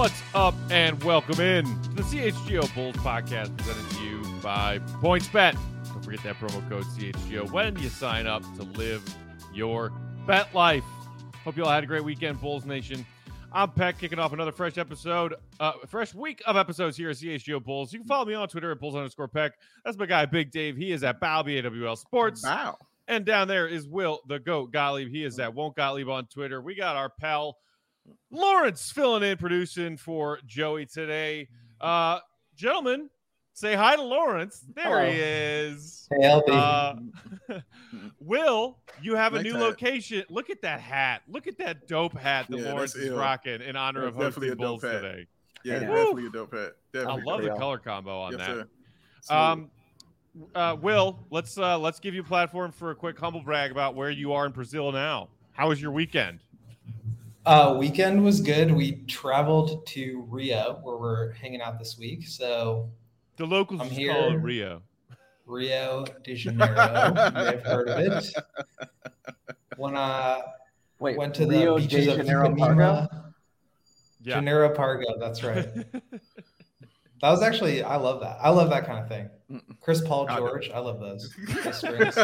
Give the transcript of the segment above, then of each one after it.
What's up, and welcome in to the CHGO Bulls podcast presented to you by PointsBet. Don't forget that promo code CHGO when you sign up to live your bet life. Hope you all had a great weekend, Bulls Nation. I'm Peck, kicking off another fresh week of episodes here at CHGO Bulls. You can follow me on Twitter at Bulls_Peck. That's my guy, Big Dave. He is at Balby, AWL Sports. Wow. And down there is Will, the GOAT Gottlieb. He is at Won't Gottlieb on Twitter. We got our pal Lawrence filling in, producing for Joey today. Gentlemen, say hi to Lawrence. There he is. Hey, LB. Will, you have a new Hat. location. Look at that hat. Look at that dope hat that Lawrence is rocking in honor of hosting Bulls today. Yeah, Yeah. definitely a dope hat. I Definitely. love the Real. color combo on that. Sir. Will, let's give you a platform for a quick humble brag about where you are in Brazil now. How was your weekend? Weekend was good. We traveled to Rio, where we're hanging out this week. So The locals I'm just here. call it Rio. Rio de Janeiro, you may have heard of it. When went to the Rio beaches de of Janeiro Ipanema. Yeah. Janeiro Pargo, that's right. That was actually, I love that. I love that kind of thing. Chris Paul I know. George, I love those. Those strings.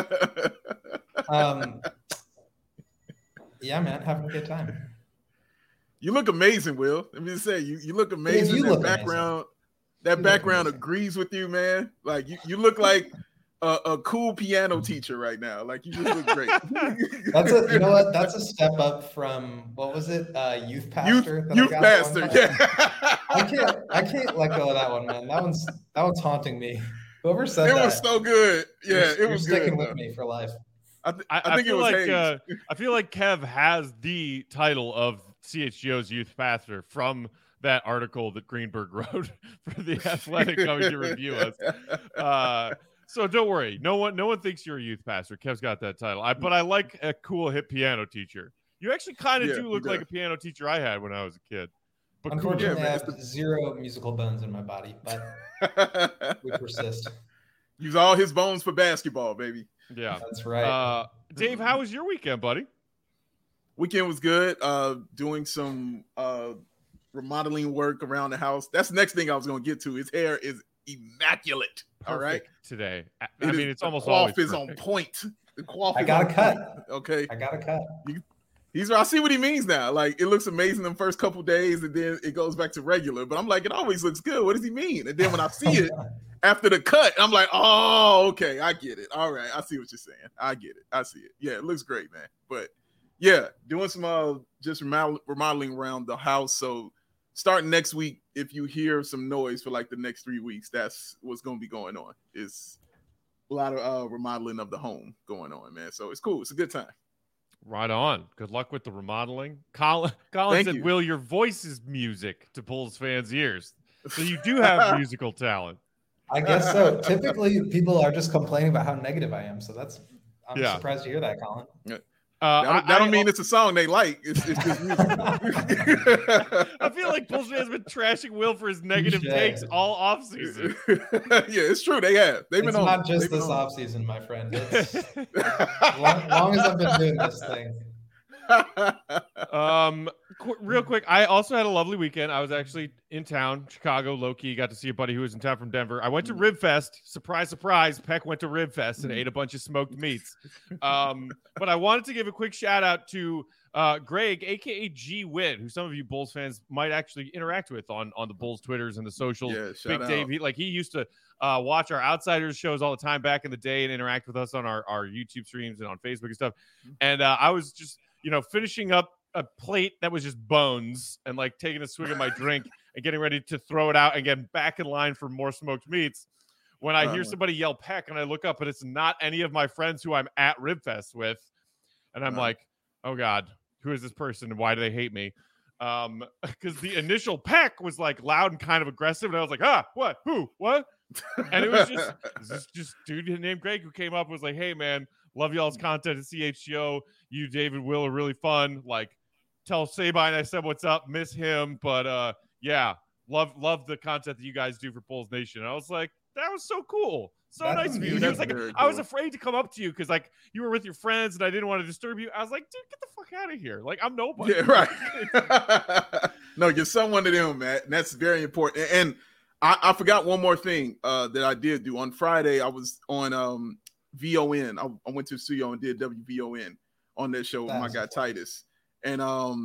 Yeah, man, having a good time. You look amazing, Will. Let me just say, you look amazing. you that look background, You look background amazing. agrees with you, man. Like you look like a cool piano teacher right now. Like you just look great. You know what? That's a step up from, what was it? Youth pastor. that I Youth got pastor. one time. Yeah. I can't let go of that one, man. That one's haunting me. Whoever said It that, was so good. Yeah, it you're was sticking good. with though. me for life. I think it feel was like Hayes. I feel like Kev has the title of CHGO's youth pastor from that article that Greenberg wrote for the Athletic coming to review us. So don't worry, no one thinks you're a youth pastor. Kev's got that title. But I like a cool hip piano teacher. You actually kind of Yeah, do he look like a does. piano teacher I had when I was a kid. But cool. Unfortunately, Yeah, I man. have zero musical bones in my body, but we persist. Use all his bones for basketball, baby. Yeah. That's right. Dave, how was your weekend, buddy? Weekend was good. Doing some remodeling work around the house. That's the next thing I was going to get to. His hair is immaculate. All right. Perfect today. I It mean, is- it's the almost coif always is on perfect. point. The coif I is got on a cut. point. Okay. I got a cut. I see what he means now. Like it looks amazing the first couple days, and then it goes back to regular. But I'm like, it always looks good. What does he mean? And then when I see it after the cut, I'm like, oh, okay, I get it. All right, I see what you're saying. I get it. I see it. Yeah, it looks great, man. But yeah, doing some just remodeling around the house. So starting next week, if you hear some noise for like the next 3 weeks, that's what's going to be going on. It's a lot of remodeling of the home going on, man. So it's cool. It's a good time. Right on. Good luck with the remodeling. Colin Thank said, you. Will, your voice is music to Bulls fans' ears. So you do have musical talent. I guess so. Typically, people are just complaining about how negative I am. So I'm Yeah. surprised to hear that, Colin. That don't mean it's a song they like. It's just music. I feel like Bulls fans have been trashing Will for his negative Touche. takes all offseason. Yeah, it's true. They have. They've been It's on. not just They've been this on. offseason, my friend. It's long as I've been doing this thing. Real quick, I also had a lovely weekend. I was actually in town, Chicago, low-key. Got to see a buddy who was in town from Denver. I went to Rib Fest. Surprise, surprise. Peck went to Rib Fest and ate a bunch of smoked meats. But I wanted to give a quick shout-out to Greg, a.k.a. G. Witt, who some of you Bulls fans might actually interact with on the Bulls Twitters and the socials. Yeah, Big shout Dave, out. he used to watch our Outsiders shows all the time back in the day and interact with us on our YouTube streams and on Facebook and stuff. And I was just, finishing up a plate that was just bones and like taking a swig of my drink and getting ready to throw it out and get back in line for more smoked meats when I hear somebody yell Peck and I look up and it's not any of my friends who I'm at Ribfest with. And I'm like, oh God, who is this person and why do they hate me? Because the initial Peck was like loud and kind of aggressive. And I was like, what, who, what? And it was just dude named Greg who came up and was like, hey man, love y'all's content at CHGO. You, David, Will are really fun. Like, tell Sabine I said what's up. Miss him, but yeah, love the content that you guys do for Bulls Nation. And I was like, that was so cool, so That's nice of you. And I was like, very I was cool. afraid to come up to you because like you were with your friends and I didn't want to disturb you. I was like, dude, get the fuck out of here. Like I'm nobody. Yeah, right. No, you're one of them, Matt. And that's very important. And I forgot one more thing that I did do. On Friday, I was on VON. I went to the studio and did WVON on that show with my guy Titus. And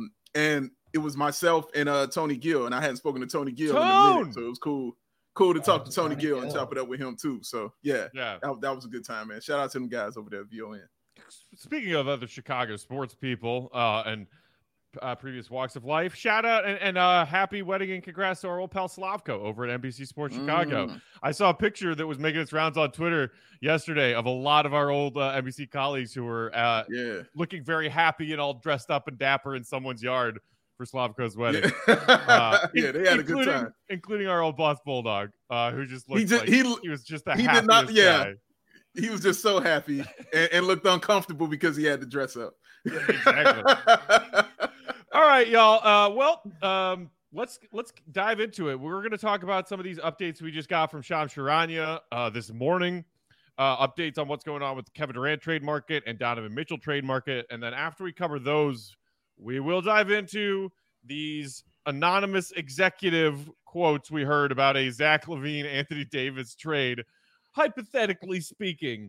it was myself and Tony Gill. And I hadn't spoken to Tony Gill in a minute. So it was cool to talk to Tony Gill and chop it up with him too. So yeah. That was a good time, man. Shout out to them guys over there at VON. Speaking of other Chicago sports people and previous walks of life, shout out and happy wedding and congrats to our old pal Slavko over at NBC Sports Chicago. I saw a picture that was making its rounds on Twitter yesterday of a lot of our old NBC colleagues who were looking very happy and all dressed up and dapper in someone's yard for Slavko's wedding. They had a good time, including our old boss Bulldog, who just looked he was just the happiest guy. He was just so happy and looked uncomfortable because he had to dress up. Yeah, exactly. All right, y'all. Let's dive into it. We're going to talk about some of these updates we just got from Shams Charania this morning. Updates on what's going on with the Kevin Durant trade market and Donovan Mitchell trade market. And then after we cover those, we will dive into these anonymous executive quotes we heard about a Zach LaVine, Anthony Davis trade, hypothetically speaking,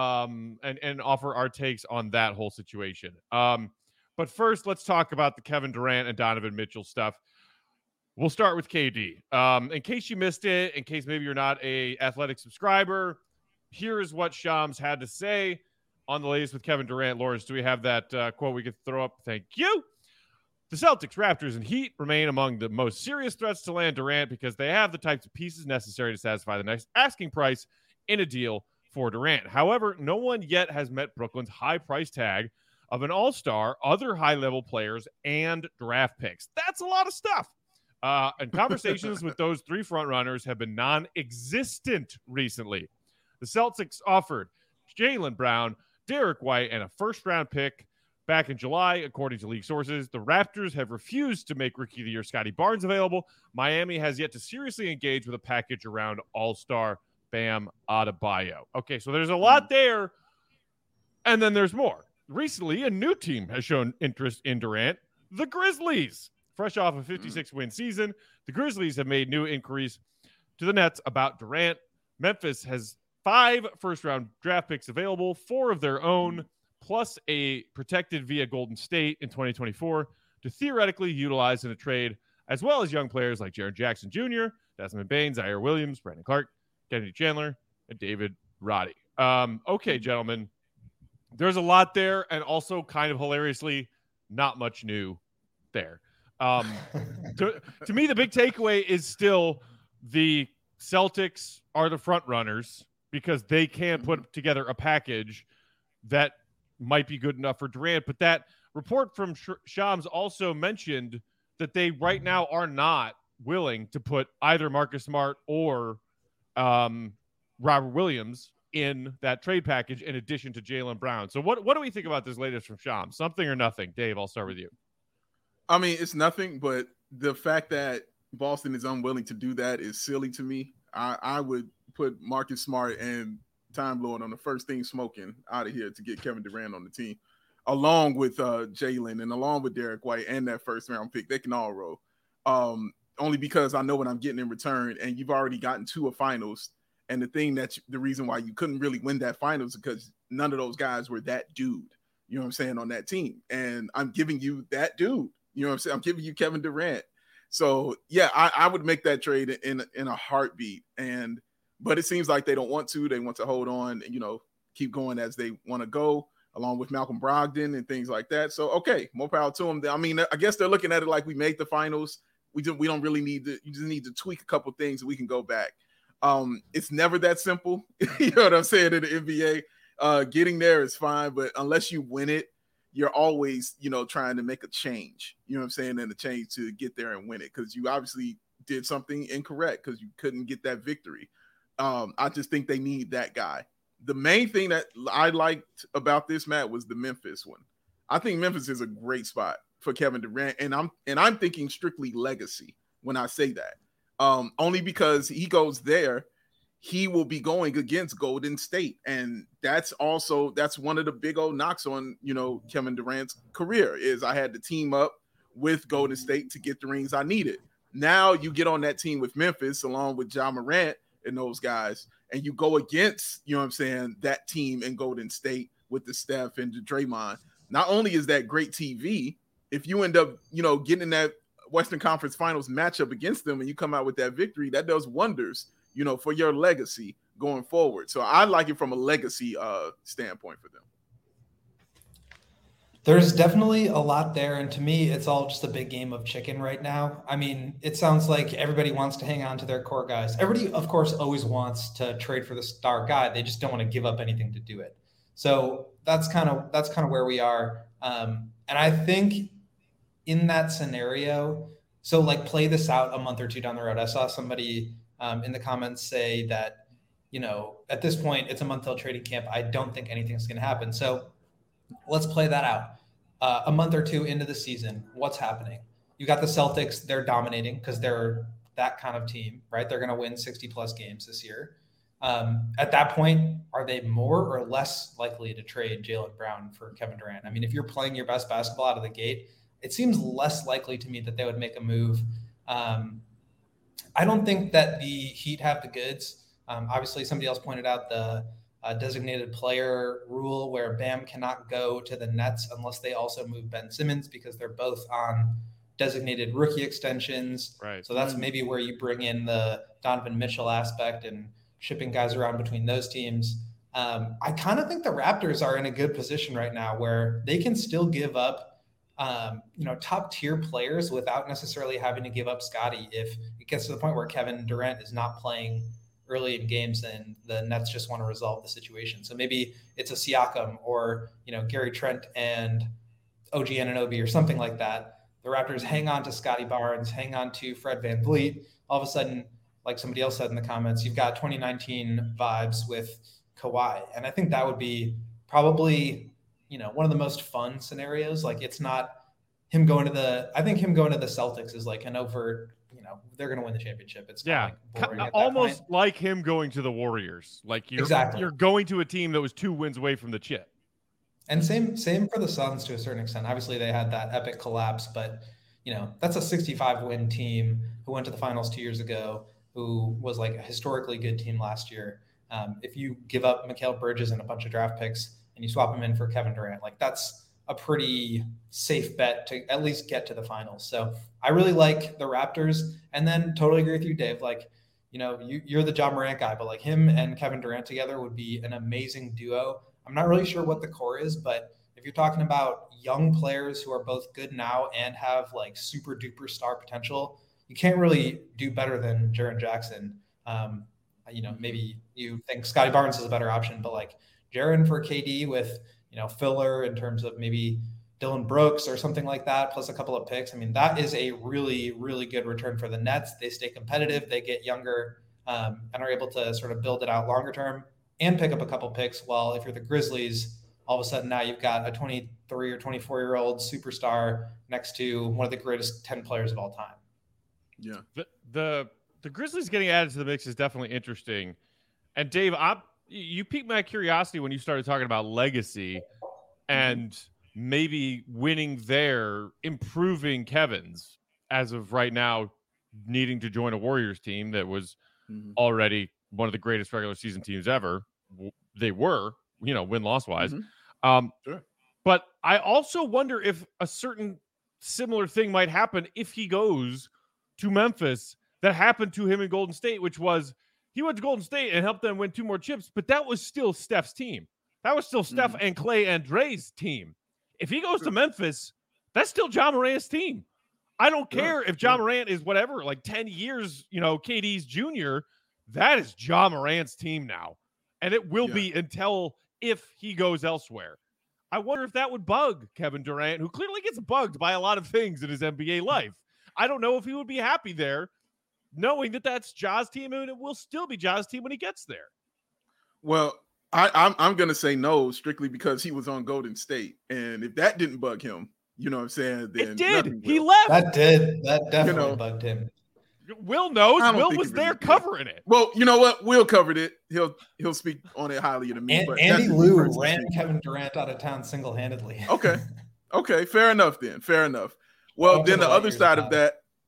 and offer our takes on that whole situation. But first, let's talk about the Kevin Durant and Donovan Mitchell stuff. We'll start with KD. In case you missed it, in case maybe you're not a Athletic subscriber, here is what Shams had to say on the latest with Kevin Durant. Lawrence, do we have that quote we could throw up? Thank you. The Celtics, Raptors, and Heat remain among the most serious threats to land Durant because they have the types of pieces necessary to satisfy the next asking price in a deal for Durant. However, no one yet has met Brooklyn's high price tag of an all-star, other high-level players, and draft picks. That's a lot of stuff. And conversations with those three frontrunners have been non-existent recently. The Celtics offered Jaylen Brown, Derek White, and a first-round pick back in July, according to league sources. The Raptors have refused to make Rookie of the Year Scotty Barnes available. Miami has yet to seriously engage with a package around all-star Bam Adebayo. Okay, so there's a lot there, and then there's more. Recently, a new team has shown interest in Durant, the Grizzlies. Fresh off a 56-win season, the Grizzlies have made new inquiries to the Nets about Durant. Memphis has 5 first-round draft picks available, 4 of their own, plus a protected via Golden State in 2024 to theoretically utilize in a trade, as well as young players like Jaren Jackson Jr., Desmond Bane, Zaire Williams, Brandon Clark, Kennedy Chandler, and David Roddy. Okay, gentlemen. There's a lot there, and also kind of hilariously, not much new there. To me, the big takeaway is still the Celtics are the front runners because they can put together a package that might be good enough for Durant. But that report from Shams also mentioned that they right now are not willing to put either Marcus Smart or Robert Williams in that trade package in addition to Jaylen Brown. So what do we think about this latest from Shams? Something or nothing? Dave, I'll start with you. I mean, it's nothing, but the fact that Boston is unwilling to do that is silly to me. I would put Marcus Smart and Time Lord on the first thing smoking out of here to get Kevin Durant on the team, along with Jaylen and along with Derek White and that first round pick. They can all roll. Only because I know what I'm getting in return, and you've already gotten to a finals. And the reason why you couldn't really win that finals is because none of those guys were that dude, you know what I'm saying, on that team. And I'm giving you that dude, you know what I'm saying? I'm giving you Kevin Durant. So yeah, I would make that trade in a heartbeat. But it seems like they don't want to. They want to hold on and, keep going as they want to go, along with Malcolm Brogdon and things like that. So, okay, more power to them. I mean, I guess they're looking at it like we made the finals. We don't really need to. You just need to tweak a couple things and we can go back. It's never that simple. You know what I'm saying? In the NBA, getting there is fine, but unless you win it, you're always, trying to make a change, you know what I'm saying? And a change to get there and win it. Cause you obviously did something incorrect because you couldn't get that victory. I just think they need that guy. The main thing that I liked about this, Matt, was the Memphis one. I think Memphis is a great spot for Kevin Durant. And I'm thinking strictly legacy when I say that. Only because he goes there, he will be going against Golden State. And that's one of the big old knocks on, Kevin Durant's career is I had to team up with Golden State to get the rings I needed. Now you get on that team with Memphis along with Ja Morant and those guys, and you go against, you know what I'm saying, that team in Golden State with the Steph and the Draymond. Not only is that great TV, if you end up, you know, getting in that Western Conference Finals matchup against them and you come out with that victory, that does wonders, you know, for your legacy going forward. So I like it from a legacy standpoint for them. There's definitely a lot there. And to me, it's all just a big game of chicken right now. I mean, it sounds like everybody wants to hang on to their core guys. Everybody, of course, always wants to trade for the star guy. They just don't want to give up anything to do it. So that's kind of where we are. And I think in that scenario, so like play this out a month or two down the road. I saw somebody in the comments say that, you know, at this point, it's a month till trading camp. I don't think anything's going to happen. So let's play that out. A month or two into the season, what's happening? You got the Celtics, they're dominating because they're that kind of team, right? They're going to win 60 plus games this year. At that point, are they more or less likely to trade Jaylen Brown for Kevin Durant? I mean, if you're playing your best basketball out of the gate, it seems less likely to me that they would make a move. I don't think that the Heat have the goods. Obviously, somebody else pointed out the designated player rule where Bam cannot go to the Nets unless they also move Ben Simmons because they're both on designated rookie extensions. Right. So that's maybe where you bring in the Donovan Mitchell aspect and shipping guys around between those teams. I kind of think the Raptors are in a good position right now where they can still give up, top tier players without necessarily having to give up Scotty. If it gets to the point where Kevin Durant is not playing early in games, then the Nets just want to resolve the situation. So maybe it's a Siakam or, Gary Trent and OG Anunoby or something like that. The Raptors hang on to Scotty Barnes, hang on to Fred VanVleet. All of a sudden, like somebody else said in the comments, you've got 2019 vibes with Kawhi. And I think that would be probably, one of the most fun scenarios. Like it's not him going to the Celtics is like an overt, they're going to win the championship. It's almost like him going to the Warriors. Like you're going to a team that was 2 wins away from the chip. And same for the Suns to a certain extent. Obviously they had that epic collapse, but that's a 65 win team who went to the finals 2 years ago, who was like a historically good team last year. If you give up Mikal Bridges and a bunch of draft picks and you swap him in for Kevin Durant, like that's a pretty safe bet to at least get to the finals. So I really like the Raptors, and then totally agree with you, Dave. Like, you're the Ja Morant guy, but like him and Kevin Durant together would be an amazing duo. I'm not really sure what the core is, but if you're talking about young players who are both good now and have like super duper star potential, you can't really do better than Jaren Jackson. Maybe you think Scotty Barnes is a better option, but like Jaren for KD with, filler in terms of maybe Dylan Brooks or something like that, plus a couple of picks. I mean, that is a really, really good return for the Nets. They stay competitive, they get younger, and are able to sort of build it out longer term and pick up a couple picks. While if you're the Grizzlies, all of a sudden now you've got a 23 or 24-year-old superstar next to one of the greatest 10 players of all time. Yeah. The Grizzlies getting added to the mix is definitely interesting. And Dave, you piqued my curiosity when you started talking about legacy and maybe winning there, improving Kevin's as of right now, needing to join a Warriors team that was already one of the greatest regular season teams ever. They were, win-loss wise. Sure. But I also wonder if a certain similar thing might happen if he goes to Memphis that happened to him in Golden State, which was he went to Golden State and helped them win 2 more chips, but that was still Steph's team. That was still Steph and Clay and Dre's team. If he goes to Memphis, that's still Ja Morant's team. I don't care if Ja Morant is whatever, like 10 years, KD's junior. That is Ja Morant's team now. And it will be until if he goes elsewhere. I wonder if that would bug Kevin Durant, who clearly gets bugged by a lot of things in his NBA life. I don't know if he would be happy there, knowing that that's Ja's team and it will still be Ja's team when he gets there. Well, I'm going to say no, strictly because he was on Golden State. And if that didn't bug him, you know what I'm saying? Then it did. He will. left. That definitely bugged him. Will knows. Will was there covering it. Well, you know what? Will covered it. He'll speak on it highly to me. But Andy Liu ran Kevin Durant out of town single-handedly. Okay. Fair enough then. Fair enough. Well, then the other side of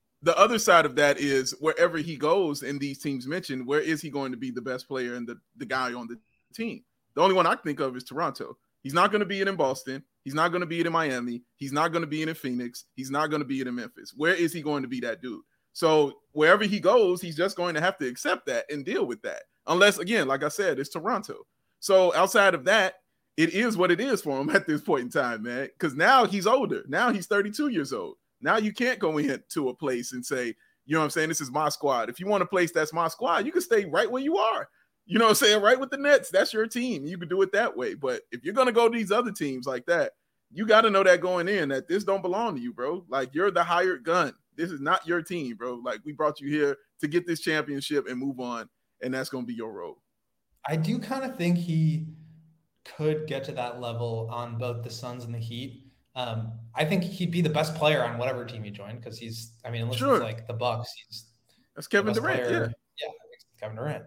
that is wherever he goes in these teams mentioned, where is he going to be the best player and the guy on the team? The only one I think of is Toronto. He's not going to be it in Boston. He's not going to be it in Miami. He's not going to be it in Phoenix. He's not going to be it in Memphis. Where is he going to be that dude? So wherever he goes, he's just going to have to accept that and deal with that. Unless, again, like I said, it's Toronto. So outside of that, it is what it is for him at this point in time, man. Because now he's older. Now he's 32 years old. Now you can't go into a place and say, you know what I'm saying, this is my squad. If you want a place that's my squad, you can stay right where you are. You know what I'm saying? Right with the Nets. That's your team. You can do it that way. But if you're going to go to these other teams like that, you got to know that going in, that this don't belong to you, bro. Like, you're the hired gun. This is not your team, bro. Like, we brought you here to get this championship and move on, and that's going to be your role. I do kind of think he could get to that level on both the Suns and the Heat. I think he'd be the best player on whatever team he joined, because he's, I mean, unless it's like the Bucks, that's Kevin Durant. Yeah, Kevin Durant.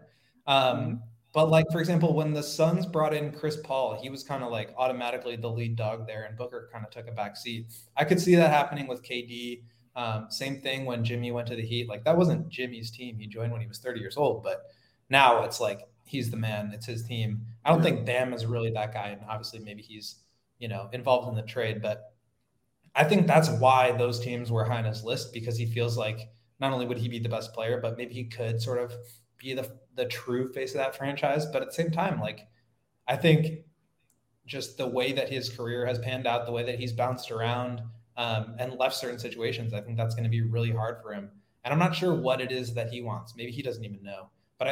But like, for example, when the Suns brought in Chris Paul, he was kind of like automatically the lead dog there, and Booker kind of took a back seat. I could see that happening with KD. Same thing when Jimmy went to the Heat. Like, that wasn't Jimmy's team. He joined when he was 30 years old, but now it's like he's the man. It's his team. I don't think Bam is really that guy, and obviously maybe he's, you know, involved in the trade, but I think that's why those teams were high on his list, because he feels like not only would he be the best player, but maybe he could sort of be the true face of that franchise. But at the same time, like, I think just the way that his career has panned out, the way that he's bounced around and left certain situations, I think that's going to be really hard for him. And I'm not sure what it is that he wants. Maybe he doesn't even know. But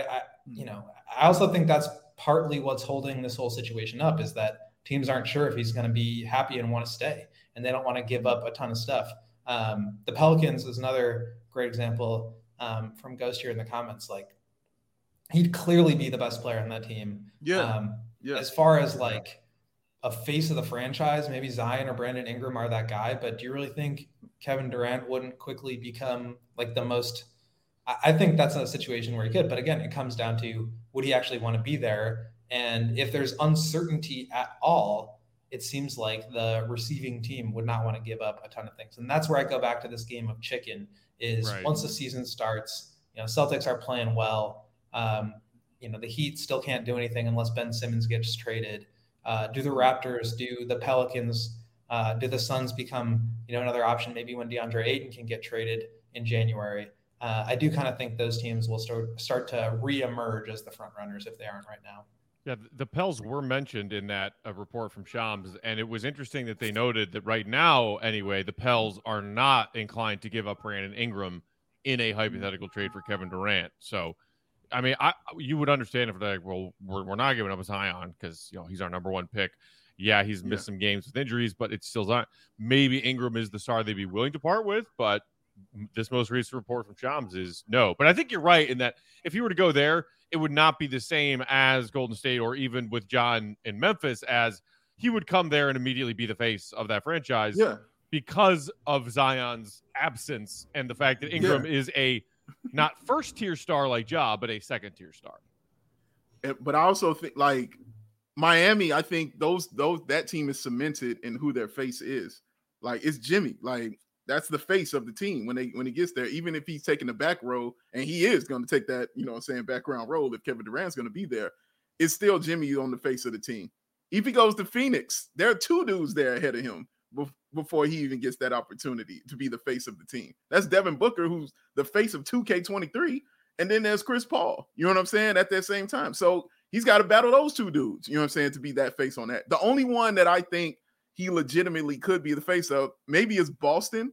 I also think that's partly what's holding this whole situation up, is that teams aren't sure if he's going to be happy and want to stay, and they don't want to give up a ton of stuff. The Pelicans is another great example from Ghost here in the comments. Like, he'd clearly be the best player on that team. As far as like a face of the franchise, maybe Zion or Brandon Ingram are that guy, but do you really think Kevin Durant wouldn't quickly become like the most? I think that's a situation where he could, but again, it comes down to, would he actually want to be there? And if there's uncertainty at all, it seems like the receiving team would not want to give up a ton of things. And that's where I go back to this game of chicken, is once the season starts, you know, Celtics are playing well. You know, the Heat still can't do anything unless Ben Simmons gets traded. Do the Raptors, do the Pelicans, do the Suns become, you know, another option maybe when DeAndre Ayton can get traded in January? I do kind of think those teams will start to reemerge as the front runners if they aren't right now. Yeah, the Pels were mentioned in that report from Shams, and it was interesting that they noted that right now, anyway, the Pels are not inclined to give up Brandon Ingram in a hypothetical trade for Kevin Durant. So, I mean, you would understand if they're like, well, we're not giving up Zion because, you know, he's our number one pick. Yeah, he's missed some games with injuries, but it's still Zion. Maybe Ingram is the star they'd be willing to part with, but this most recent report from Shams is no. But I think you're right in that if he were to go there, it would not be the same as Golden State or even with John in Memphis, as he would come there and immediately be the face of that franchise because of Zion's absence and the fact that Ingram is a not first-tier star like Ja, but a second-tier star. But I also think, like, Miami, I think that team is cemented in who their face is. Like, it's Jimmy. Like, that's the face of the team when he gets there, even if he's taking the back row, and he is going to take that, you know what I'm saying, background role if Kevin Durant's going to be there. It's still Jimmy on the face of the team. If he goes to Phoenix, there are two dudes there ahead of him before he even gets that opportunity to be the face of the team. That's Devin Booker, who's the face of 2K23, and then there's Chris Paul. You know what I'm saying? At that same time. So he's got to battle those two dudes, you know what I'm saying, to be that face on that. The only one that I think he legitimately could be the face of maybe is Boston.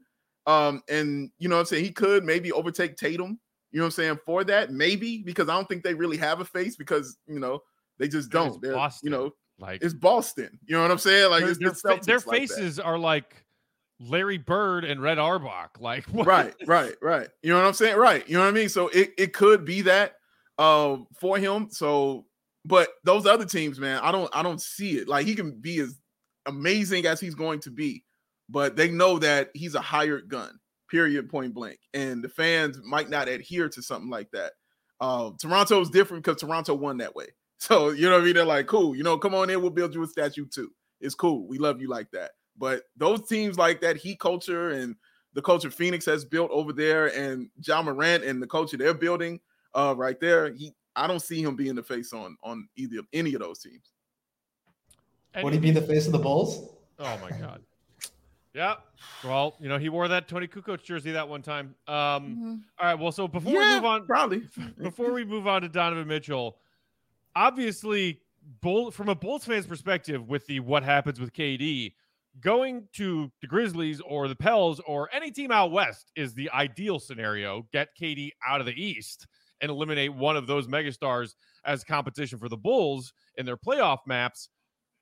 And you know what I'm saying, he could maybe overtake Tatum, you know what I'm saying, for that, maybe, because I don't think they really have a face, because, you know, they just don't. They're, you know, like, it's Boston, you know what I'm saying? Like, their faces are like Larry Bird and Red Auerbach. Like, what? Right. You know what I'm saying? Right. You know what I mean? So it could be that for him. So, but those other teams, man, I don't see it. Like, he can be as amazing as he's going to be, but they know that he's a hired gun, period, point blank. And the fans might not adhere to something like that. Toronto is different because Toronto won that way. So, you know what I mean? They're like, cool, you know, come on in, we'll build you a statue too. It's cool. We love you like that. But those teams like that Heat culture and the culture Phoenix has built over there, and Ja Morant and the culture they're building right there, I don't see him being the face on any of those teams. Would he be the face of the Bulls? Oh my God. Yeah. Well, he wore that Tony Kukoc jersey that one time. All right. Well, so before we move on, before we move on to Donovan Mitchell, obviously, from a Bulls fan's perspective, with the what happens with KD, going to the Grizzlies or the Pels or any team out west is the ideal scenario. Get KD out of the East and eliminate one of those megastars as competition for the Bulls in their playoff maps.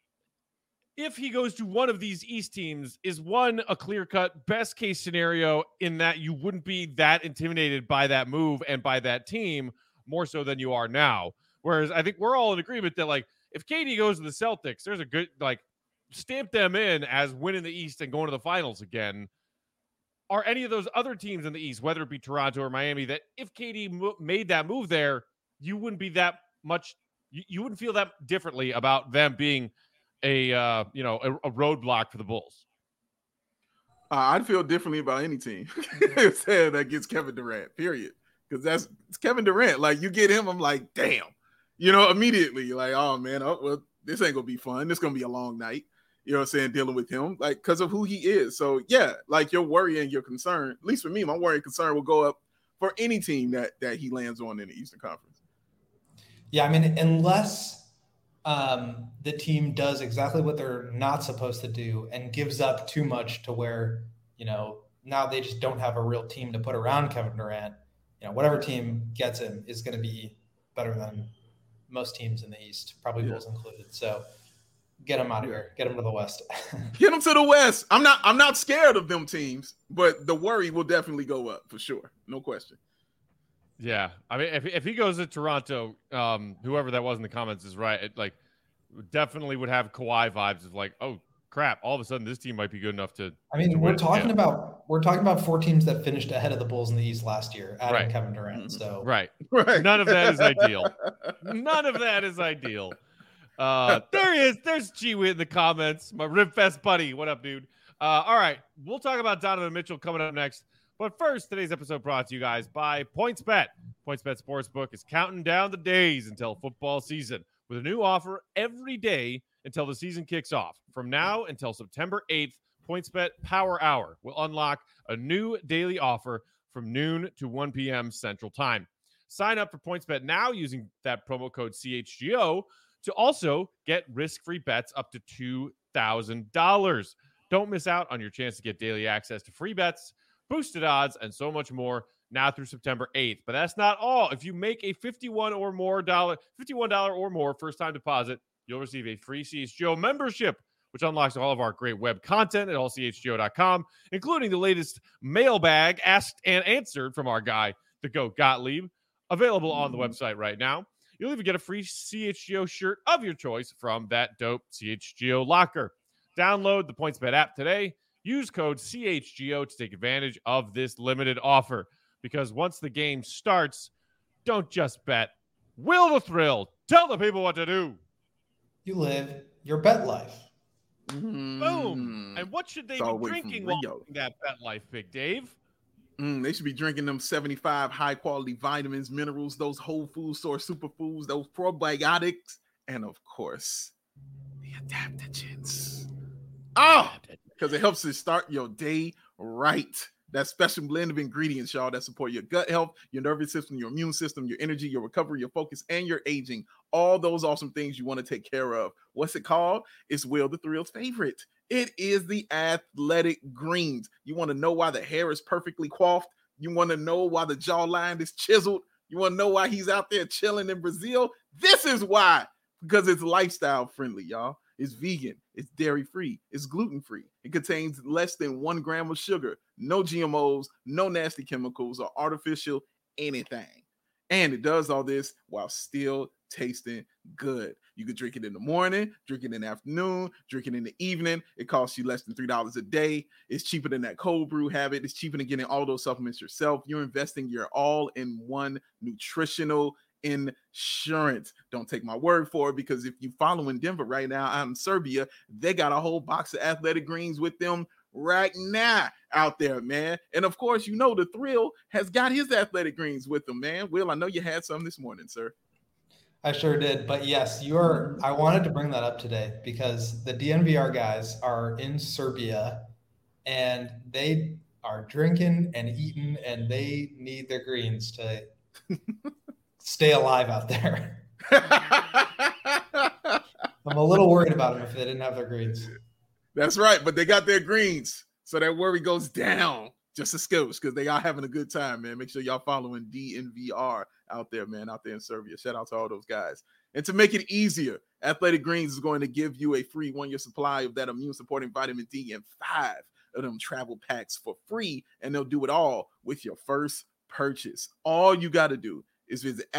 If he goes to one of these East teams, is one a clear-cut best case scenario in that you wouldn't be that intimidated by that move and by that team more so than you are now. Whereas I think we're all in agreement that, like, if KD goes to the Celtics, there's a good, like, stamp them in as winning the East and going to the finals again. Are any of those other teams in the East, whether it be Toronto or Miami, that if KD made that move there, you wouldn't be that much, you wouldn't feel that differently about them being a roadblock for the Bulls? I'd feel differently about any team that gets Kevin Durant, period. Because it's Kevin Durant. Like, you get him, I'm like, damn. Immediately, like, oh, man, well, this ain't going to be fun. This going to be a long night, dealing with him, like, because of who he is. So, yeah, like, your worry and your concern, at least for me, my worry and concern will go up for any team that he lands on in the Eastern Conference. Yeah, I mean, unless the team does exactly what they're not supposed to do and gives up too much to where, now they just don't have a real team to put around Kevin Durant. Whatever team gets him is going to be better than most teams in the East, probably Bulls included. So get him out of here. Get him to the West. Get him to the West. I'm not scared of them teams, but the worry will definitely go up for sure. No question. Yeah, I mean, if he goes to Toronto, whoever that was in the comments is right. It, like, definitely would have Kawhi vibes of like, oh crap, all of a sudden this team might be good enough to. I mean, we're talking about 4 teams that finished ahead of the Bulls in the East last year, adding Kevin Durant. So right, none of that is ideal. None of that is ideal. There he is. There's G-Wit in the comments. My Ribfest buddy. What up, dude? All right, we'll talk about Donovan Mitchell coming up next. But first, today's episode brought to you guys by PointsBet. PointsBet Sportsbook is counting down the days until football season with a new offer every day until the season kicks off. From now until September 8th, PointsBet Power Hour will unlock a new daily offer from noon to 1 p.m. Central Time. Sign up for PointsBet now using that promo code CHGO to also get risk-free bets up to $2,000. Don't miss out on your chance to get daily access to free bets, boosted odds, and so much more now through September 8th. But that's not all. If you make a $51 or more first-time deposit, you'll receive a free CHGO membership, which unlocks all of our great web content at allchgo.com, including the latest mailbag asked and answered from our guy, the GOAT Gottlieb, available on the website right now. You'll even get a free CHGO shirt of your choice from that dope CHGO locker. Download the PointsBet app today. Use code CHGO to take advantage of this limited offer. Because once the game starts, don't just bet. Will the thrill. Tell the people what to do. You live your bet life. Boom. And what should they be drinking while living that bet life, Big Dave? They should be drinking them 75 high-quality vitamins, minerals, those whole food store superfoods, those probiotics, and, of course, the adaptogens. Oh, because it helps you start your day right. That special blend of ingredients, y'all, that support your gut health, your nervous system, your immune system, your energy, your recovery, your focus, and your aging. All those awesome things you want to take care of. What's it called? It's Will the Thrill's favorite. It is the Athletic Greens. You want to know why the hair is perfectly coiffed? You want to know why the jawline is chiseled? You want to know why he's out there chilling in Brazil? This is why. Because it's lifestyle friendly, y'all. It's vegan, it's dairy-free, it's gluten-free. It contains less than 1 gram of sugar, no GMOs, no nasty chemicals or artificial anything. And it does all this while still tasting good. You could drink it in the morning, drink it in the afternoon, drink it in the evening. It costs you less than $3 a day. It's cheaper than that cold brew habit. It's cheaper than getting all those supplements yourself. You're investing your all-in-one nutritional insurance. Don't take my word for it, because if you follow in Denver right now, out in Serbia, they got a whole box of Athletic Greens with them right now out there, man. And of course, you know the Thrill has got his Athletic Greens with him, man. Will, I know you had some this morning, sir. I sure did. But yes, I wanted to bring that up today because the DNVR guys are in Serbia and they are drinking and eating and they need their greens to stay alive out there. I'm a little worried about them if they didn't have their greens. That's right. But they got their greens. So that worry goes down just a skosh because they are having a good time, man. Make sure y'all following DNVR out there, man, out there in Serbia. Shout out to all those guys. And to make it easier, Athletic Greens is going to give you a free 1-year supply of that immune-supporting vitamin D and 5 of them travel packs for free, and they'll do it all with your first purchase. All you got to do is visit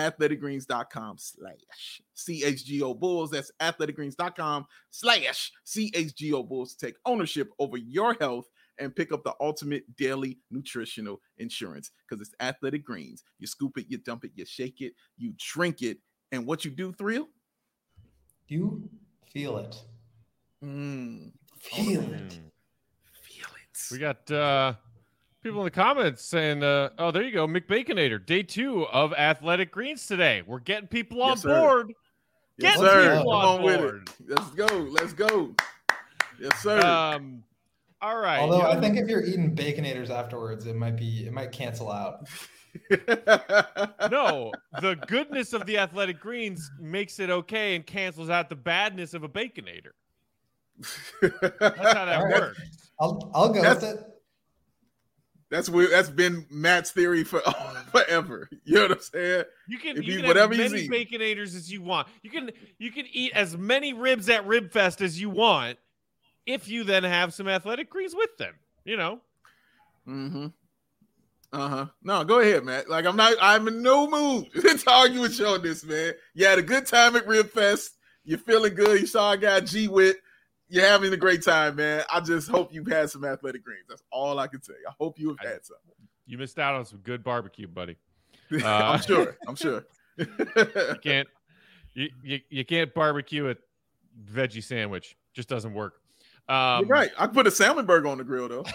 athleticgreens.com/CHGO Bulls. That's athleticgreens.com/CHGO Bulls to take ownership over your health and pick up the ultimate daily nutritional insurance because it's Athletic Greens. You scoop it, you dump it, you shake it, you drink it, and what you do, Thrill? You feel it. Feel it. We got people in the comments saying, oh, there you go, McBaconator, day 2 of Athletic Greens today. We're getting people on board. Yes, Getting sir. people on board. Let's go. Let's go. Yes, sir. All right. Although I think if you're eating Baconators afterwards, it might cancel out. No, the goodness of the Athletic Greens makes it okay and cancels out the badness of a Baconator. That's how that works. I'll go with it. That's weird. That's been Matt's theory forever. You know what I'm saying? You can have as many Baconators as you want. You can eat as many ribs at Rib Fest as you want if you then have some Athletic Greens with them. You know. Mm-hmm. No, go ahead, Matt. Like I'm in no mood to argue with you on this, man. You had a good time at Rib Fest. You're feeling good. You saw a guy G-Wit. You're having a great time, man. I just hope you've had some Athletic Greens. That's all I can say. I hope you have had some. You missed out on some good barbecue, buddy. I'm sure. You can't barbecue a veggie sandwich. Just doesn't work. You're right. I put a salmon burger on the grill, though.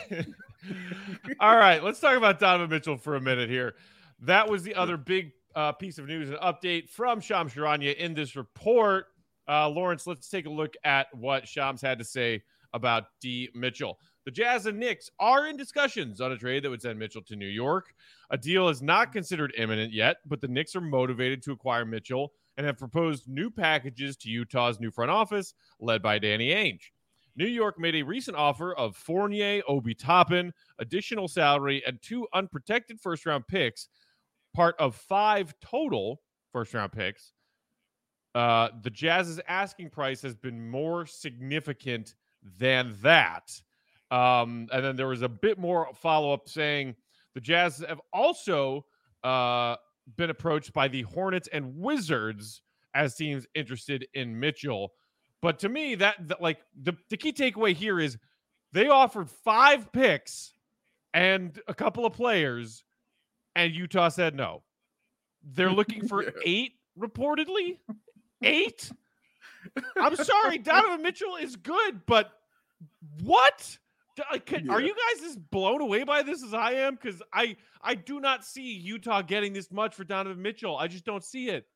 All right, let's talk about Donovan Mitchell for a minute here. That was the other big piece of news and update from Shams Charania in this report. Lawrence, let's take a look at what Shams had to say about D. Mitchell. The Jazz and Knicks are in discussions on a trade that would send Mitchell to New York. A deal is not considered imminent yet, but the Knicks are motivated to acquire Mitchell and have proposed new packages to Utah's new front office, led by Danny Ainge. New York made a recent offer of Fournier, Obi Toppin, additional salary, and 2 unprotected first-round picks, part of 5 total first-round picks. The Jazz's asking price has been more significant than that. And then there was a bit more follow-up saying the Jazz have also been approached by the Hornets and Wizards as teams interested in Mitchell. But to me, that like the key takeaway here is they offered 5 picks and a couple of players, and Utah said no. They're looking for 8, reportedly. 8? I'm sorry, Donovan Mitchell is good, but what? Are you guys as blown away by this as I am? Because I do not see Utah getting this much for Donovan Mitchell. I just don't see it.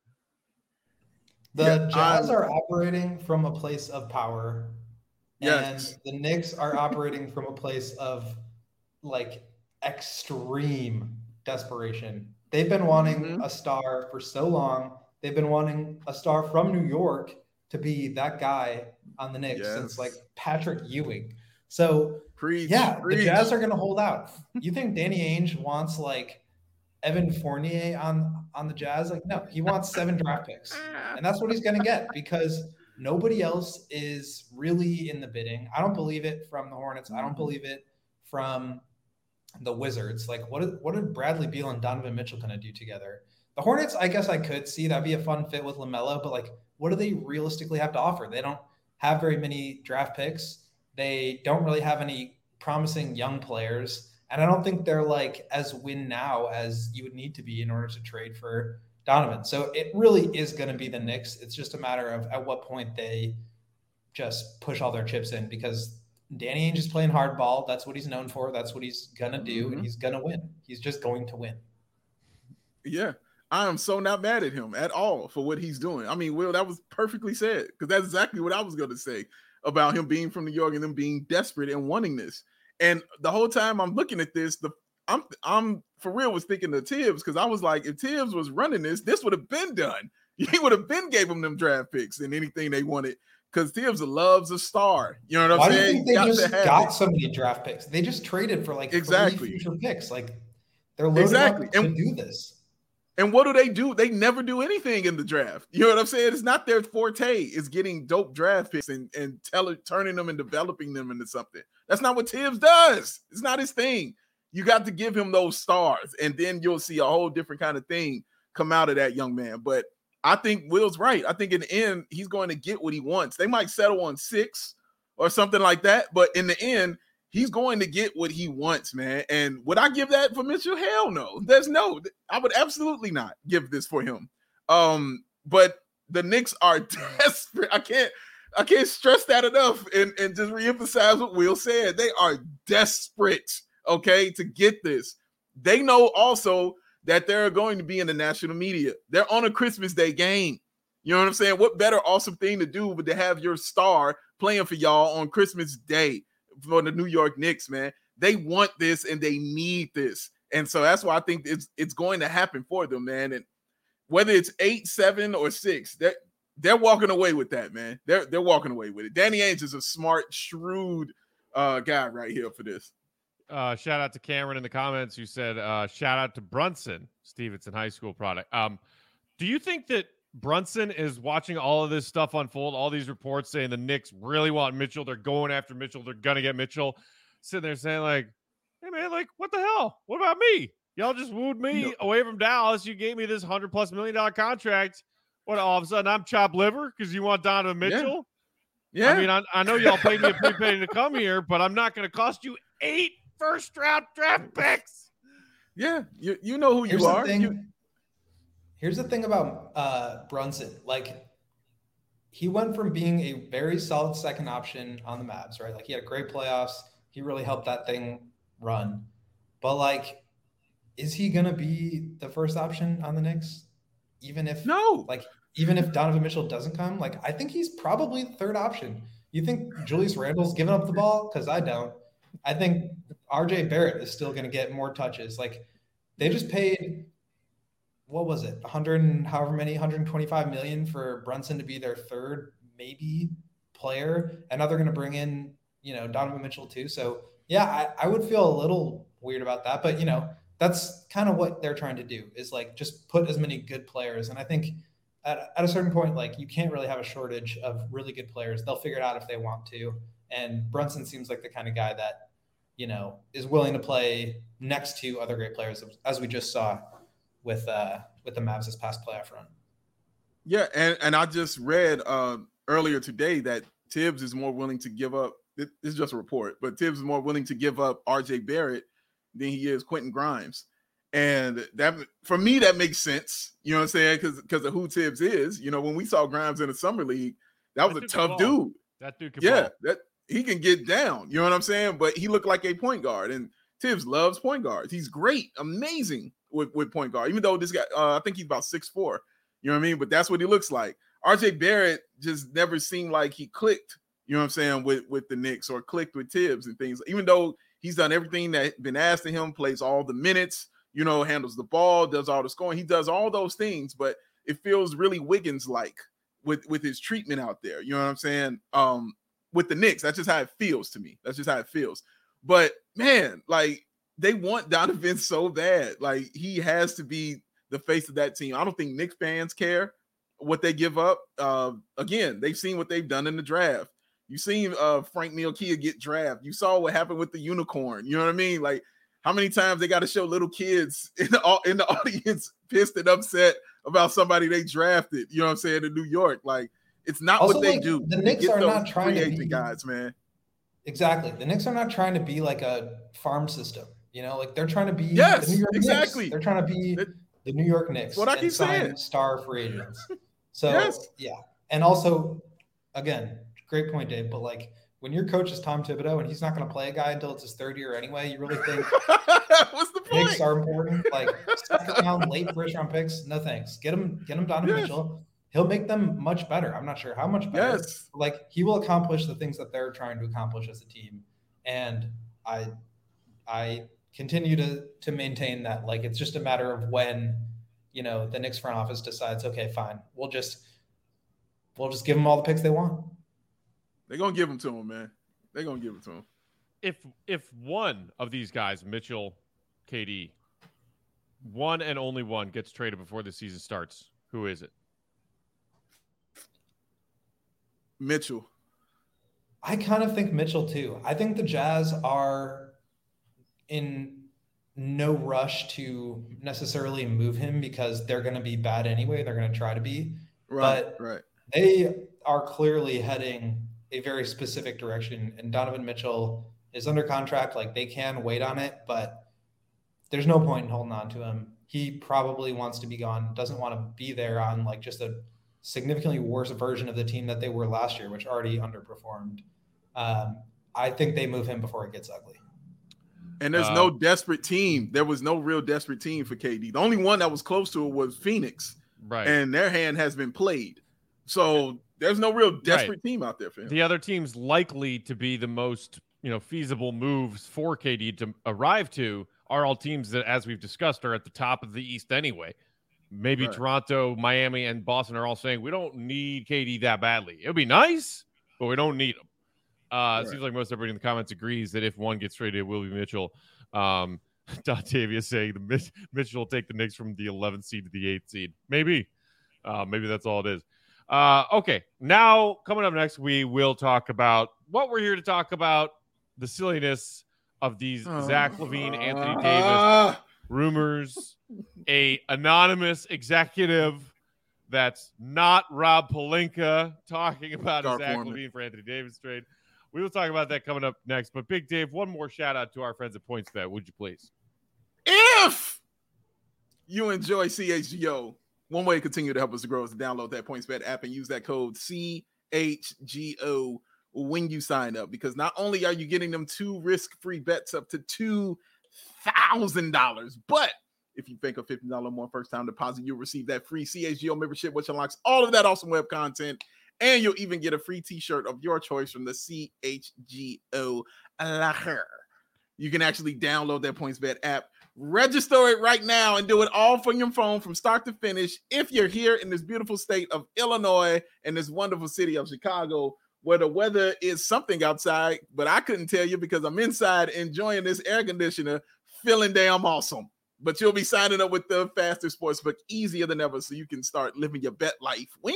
The Jazz are operating from a place of power, and the Knicks are operating from a place of like extreme desperation. They've been wanting a star for so long. They've been wanting a star from New York to be that guy on the Knicks since like Patrick Ewing. So the Jazz are going to hold out. You think Danny Ainge wants like Evan Fournier on the Jazz? Like, no, he wants 7 draft picks. And that's what he's going to get because nobody else is really in the bidding. I don't believe it from the Hornets. I don't believe it from the Wizards. Like, what did Bradley Beal and Donovan Mitchell going to do together? The Hornets, I guess I could see that'd be a fun fit with LaMelo, but like, what do they realistically have to offer? They don't have very many draft picks. They don't really have any promising young players. And I don't think they're like as win now as you would need to be in order to trade for Donovan. So it really is going to be the Knicks. It's just a matter of at what point they just push all their chips in because Danny Ainge is playing hardball. That's what he's known for. That's what he's gonna do, Mhm. and he's gonna win. He's just going to win. Yeah. I am so not mad at him at all for what he's doing. I mean, Will, that was perfectly said, because that's exactly what I was going to say about him being from New York and them being desperate and wanting this. And the whole time I'm looking at this, I'm for real was thinking of Tibbs, because I was like, if Tibbs was running this would have been done. He would have been gave them them draft picks and anything they wanted, because Tibbs loves a star. You know what I'm Why do you saying? think they just got so many draft picks? They just traded for like 3 future picks. Like they're loaded up to do this. And what do? They never do anything in the draft. You know what I'm saying? It's not their forte. It's getting dope draft picks and turning them and developing them into something. That's not what Tibbs does. It's not his thing. You got to give him those stars, and then you'll see a whole different kind of thing come out of that young man. But I think Will's right. I think in the end, he's going to get what he wants. They might settle on 6 or something like that, but in the end, he's going to get what he wants, man. And would I give that for Mitchell? Hell no. I would absolutely not give this for him. But the Knicks are desperate. I can't stress that enough and just reemphasize what Will said. They are desperate, okay, to get this. They know also that they're going to be in the national media. They're on a Christmas Day game. You know what I'm saying? What better awesome thing to do but to have your star playing for y'all on Christmas Day for the New York Knicks, man. They want this and they need this. And so that's why I think it's going to happen for them, man. And whether it's 8, 7, or 6, they're walking away with that, man. They're walking away with it. Danny Ainge is a smart, shrewd guy right here for this. Shout out to Cameron in the comments who said, shout out to Brunson, Stevenson High School product. Do you think that Brunson is watching all of this stuff unfold, all these reports saying the Knicks really want Mitchell, they're going after Mitchell, they're going to get Mitchell, sitting there saying like, hey man, like what the hell? What about me? Y'all just wooed me away from Dallas. You gave me this $100+ million contract. What, all of a sudden I'm chopped liver because you want Donovan Mitchell? Yeah. I mean, I know y'all paid me a prepaid to come here, but I'm not going to cost you 8 first-round draft picks. Yeah, you know who you are. Here's the thing about Brunson. Like, he went from being a very solid second option on the Mavs, right? Like, he had great playoffs. He really helped that thing run. But, like, is he going to be the first option on the Knicks? Even if Donovan Mitchell doesn't come? Like, I think he's probably the third option. You think Julius Randle's giving up the ball? Because I don't. I think RJ Barrett is still going to get more touches. Like, they just paid – what was it? 125 million for Brunson to be their third maybe player. And now they're going to bring in, Donovan Mitchell too. So yeah, I would feel a little weird about that, but that's kind of what they're trying to do is like, just put as many good players. And I think at a certain point, like you can't really have a shortage of really good players. They'll figure it out if they want to. And Brunson seems like the kind of guy that, is willing to play next to other great players, as we just saw with the Mavs this past playoff run. Yeah, and I just read earlier today that Tibbs is more willing to give up. This is just a report, but Tibbs is more willing to give up RJ Barrett than he is Quentin Grimes. And that, for me, that makes sense. You know what I'm saying? Because of who Tibbs is. When we saw Grimes in the summer league, that was a tough dude. That dude can ball. That he can get down. You know what I'm saying? But he looked like a point guard, and Tibbs loves point guards. He's great, amazing with point guard. Even though this guy, I think he's about 6'4". You know what I mean? But that's what he looks like. RJ Barrett just never seemed like he clicked. You know what I'm saying, with the Knicks or clicked with Tibbs and things. Even though he's done everything that's been asked of him, plays all the minutes, handles the ball, does all the scoring. He does all those things, but it feels really Wiggins-like with his treatment out there. You know what I'm saying? With the Knicks, that's just how it feels to me. That's just how it feels. But man, like they want Donovan so bad. Like he has to be the face of that team. I don't think Knicks fans care what they give up. Again, they've seen what they've done in the draft. You've seen Frank Ntilikina get drafted. You saw what happened with the unicorn. You know what I mean? Like how many times they got to show little kids in the audience pissed and upset about somebody they drafted. You know what I'm saying? In New York, like it's not also, what they do. The Knicks are not trying to be guys, man. Exactly. The Knicks are not trying to be like a farm system. Like they're trying to be the New York exactly. Knicks. They're trying to be the New York Knicks. What I keep saying. Star free agents. So yeah. And also, again, great point, Dave. But like when your coach is Tom Thibodeau and he's not going to play a guy until it's his third year anyway, you really think what's the picks point? are important? Like second round, late first round picks? No thanks. Get him Donovan Mitchell. He'll make them much better. I'm not sure how much better. Yes. Like he will accomplish the things that they're trying to accomplish as a team. And I continue to maintain that. Like it's just a matter of when, the Knicks front office decides, okay, fine, we'll just give them all the picks they want. They're gonna give them to him, man. They're gonna give it to him. If one of these guys, Mitchell, KD, one and only one, gets traded before the season starts, who is it? Mitchell. I kind of think Mitchell too. I think the Jazz are in no rush to necessarily move him because they're going to be bad anyway. They're going to try to be. Right. They are clearly heading a very specific direction. And Donovan Mitchell is under contract. Like they can wait on it, but there's no point in holding on to him. He probably wants to be gone, doesn't want to be there on like just a significantly worse version of the team that they were last year, which already underperformed. I think they move him before it gets ugly. And there's no desperate team. There was no real desperate team for KD. The only one that was close to it was Phoenix. Right. And their hand has been played. So there's no real desperate team out there for him. The other teams likely to be the most, feasible moves for KD to arrive to are all teams that, as we've discussed, are at the top of the East anyway. Maybe Toronto, Miami, and Boston are all saying, we don't need KD that badly. It would be nice, but we don't need him. It seems like most everybody in the comments agrees that if one gets traded, it will be Mitchell. Dontavia saying Mitchell will take the Knicks from the 11th seed to the 8th seed. Maybe that's all it is. Okay, now coming up next, we will talk about what we're here to talk about, the silliness of these Zach LaVine, Anthony Davis rumors, a anonymous executive that's not Rob Pelinka talking about a Zach LaVine for Anthony Davis trade. We will talk about that coming up next. But Big Dave, one more shout out to our friends at PointsBet, would you please? If you enjoy CHGO, one way to continue to help us to grow is to download that PointsBet app and use that code CHGO when you sign up, because not only are you getting them 2 risk-free bets up to $2,000, but if you think a $50 more first-time deposit, you'll receive that free CHGO membership, which unlocks all of that awesome web content, and you'll even get a free t-shirt of your choice from the CHGO locker. You can actually download that PointsBet app, register it right now, and do it all from your phone from start to finish if you're here in this beautiful state of Illinois and this wonderful city of Chicago, where the weather is something outside, but I couldn't tell you because I'm inside enjoying this air conditioner, feeling damn awesome. But you'll be signing up with the faster sportsbook, easier than ever, so you can start living your bet life. When?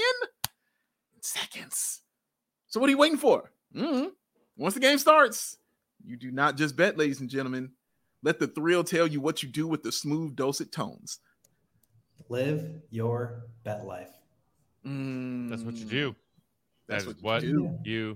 Seconds. So what are you waiting for? Once the game starts, you do not just bet, ladies and gentlemen. Let the thrill tell you what you do with the smooth, dulcet tones. Live your bet life. That's what you do. That's what you do.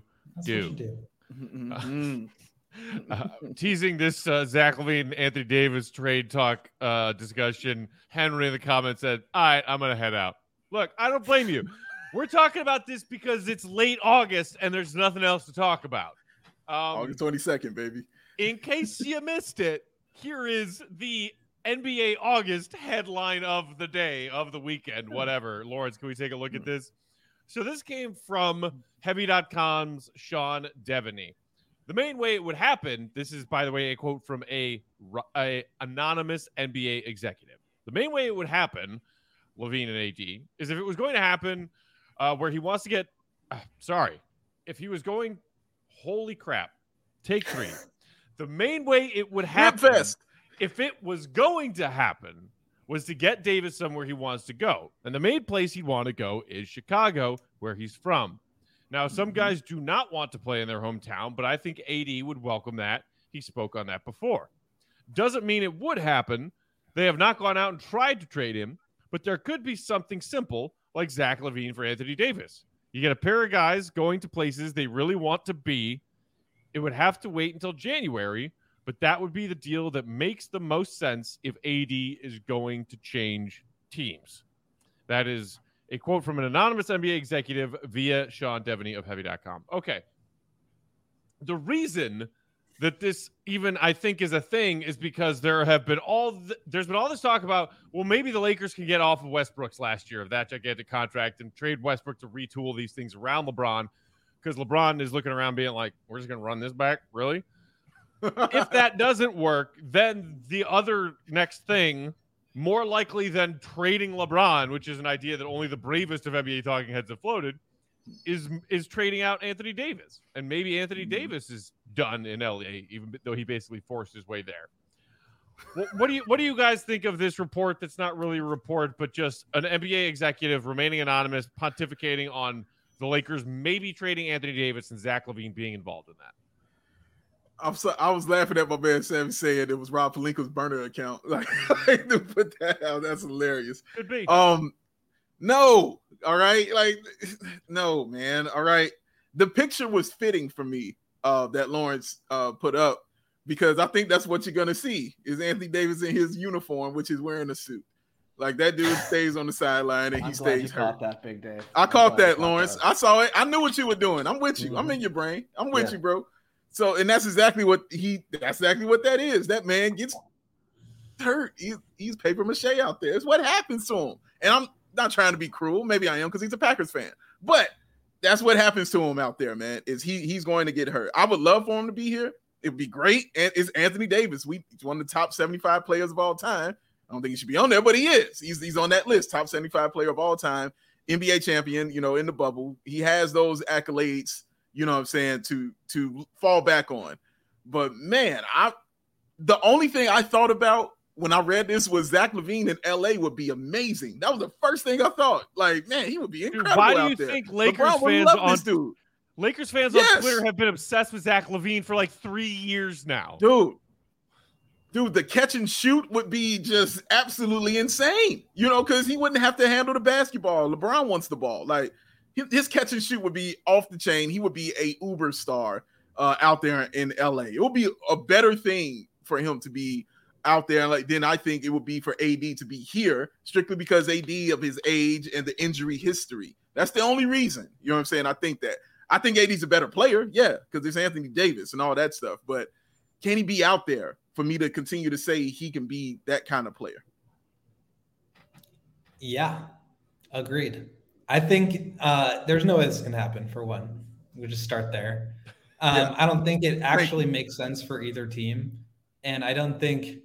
Mm-hmm. Teasing this Zach LaVine, Anthony Davis trade talk discussion, Henry in the comments said, all right, I'm going to head out. Look, I don't blame you. We're talking about this because it's late August and there's nothing else to talk about. August 22nd, baby. In case you missed it, here is the NBA August headline of the day, of the weekend, whatever. Lawrence, can we take a look at this? So this came from Heavy.com's Sean Devaney. The main way it would happen, this is, by the way, a quote from a anonymous NBA executive. The main way it would happen, LaVine and AD, is if it was going to happen where he wants to get, if he was going, holy crap, take 3. The main way it would happen, if it was going to happen, was to get Davis somewhere he wants to go. And the main place he'd want to go is Chicago, where he's from. Now, some guys do not want to play in their hometown, but I think AD would welcome that. He spoke on that before. Doesn't mean it would happen. They have not gone out and tried to trade him, but there could be something simple like Zach LaVine for Anthony Davis. You get a pair of guys going to places they really want to be. It would have to wait until January, but that would be the deal that makes the most sense if AD is going to change teams. That is a quote from an anonymous NBA executive via Sean Devaney of Heavy.com. Okay. the reason that this even I think is a thing is because there's been all this talk about, well, maybe the Lakers can get off of Westbrook's last year of that gigantic contract and trade Westbrook to retool these things around LeBron, because LeBron is looking around being like, we're just going to run this back? Really? If that doesn't work, then the other next thing, more likely than trading LeBron, which is an idea that only the bravest of NBA talking heads have floated, is trading out Anthony Davis. And maybe Anthony Davis is done in LA, even though he basically forced his way there. What do you guys think of this report that's not really a report, but just an NBA executive remaining anonymous, pontificating on the Lakers maybe trading Anthony Davis and Zach LaVine being involved in that? I was laughing at my man Sam saying it was Rob Pelinka's burner account. Like, to put that out, that's hilarious. Could be. No, all right, like, no, man, all right. The picture was fitting for me that Lawrence put up, because I think that's what you're gonna see is Anthony Davis in his uniform, which is wearing a suit. Like, that dude stays on the sideline and he stays hurt. Caught that, Big Dave. I caught that, Lawrence. I saw it. I knew what you were doing. I'm with you. Mm-hmm. I'm in your brain. I'm with you, bro. So, and that's exactly what that is. That man gets hurt. He's paper mache out there. It's what happens to him. And I'm not trying to be cruel. Maybe I am, because he's a Packers fan. But that's what happens to him out there, man, is he's going to get hurt. I would love for him to be here. It would be great. And it's Anthony Davis. He's one of the top 75 players of all time. I don't think he should be on there, but he is. He's on that list, top 75 player of all time, NBA champion, in the bubble. He has those accolades, you know what I'm saying, to fall back on. But, man, the only thing I thought about when I read this was Zach LaVine in LA would be amazing. That was the first thing I thought. Like, man, he would be incredible. Dude, why do you there. think Lakers fans on Twitter have been obsessed with Zach LaVine for like 3 years now? Dude, the catch and shoot would be just absolutely insane, because he wouldn't have to handle the basketball. LeBron wants the ball. Like, his catch and shoot would be off the chain. He would be a uber star out there in LA. It would be a better thing for him to be out there than I think it would be for AD to be here, strictly because AD of his age and the injury history. That's the only reason. You know what I'm saying? I think AD's a better player, yeah, because there's Anthony Davis and all that stuff. But can he be out there for me to continue to say he can be that kind of player? Yeah, agreed. I think there's no way this can happen, for one. We'll just start there. I don't think it actually makes sense for either team. And I don't think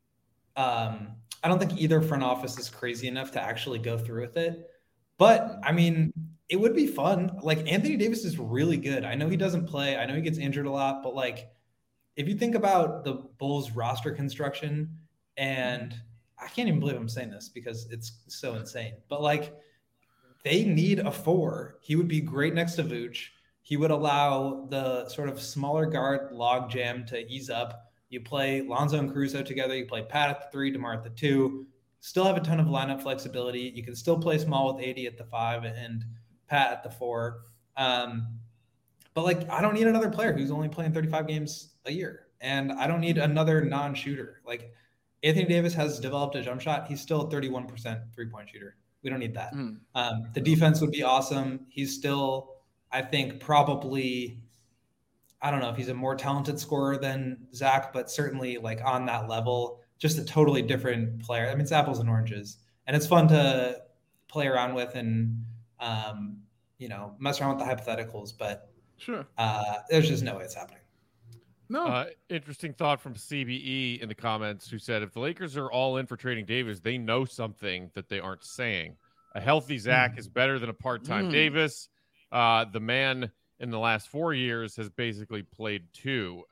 either front office is crazy enough to actually go through with it. But, I mean, it would be fun. Like, Anthony Davis is really good. I know he doesn't play. I know he gets injured a lot. But, like, if you think about the Bulls roster construction, and I can't even believe I'm saying this because it's so insane. But, like, they need a 4. He would be great next to Vooch. He would allow the sort of smaller guard logjam to ease up. You play Lonzo and Caruso together. You play Pat at the 3, DeMar at the 2. Still have a ton of lineup flexibility. You can still play small with AD at the 5 and Pat at the 4. But, like, I don't need another player who's only playing 35 games a year. And I don't need another non-shooter. Like, Anthony Davis has developed a jump shot. He's still a 31% three-point shooter. We don't need that. The defense would be awesome. He's still, I think, probably, I don't know if he's a more talented scorer than Zach, but certainly, like, on that level, just a totally different player. I mean, it's apples and oranges. And it's fun to play around with and, mess around with the hypotheticals. But sure, there's just no way it's happening. No. Interesting thought from CBE in the comments, who said if the Lakers are all in for trading Davis, they know something that they aren't saying. A healthy Zach is better than a part-time Davis. The man in the last 4 years has basically played 2.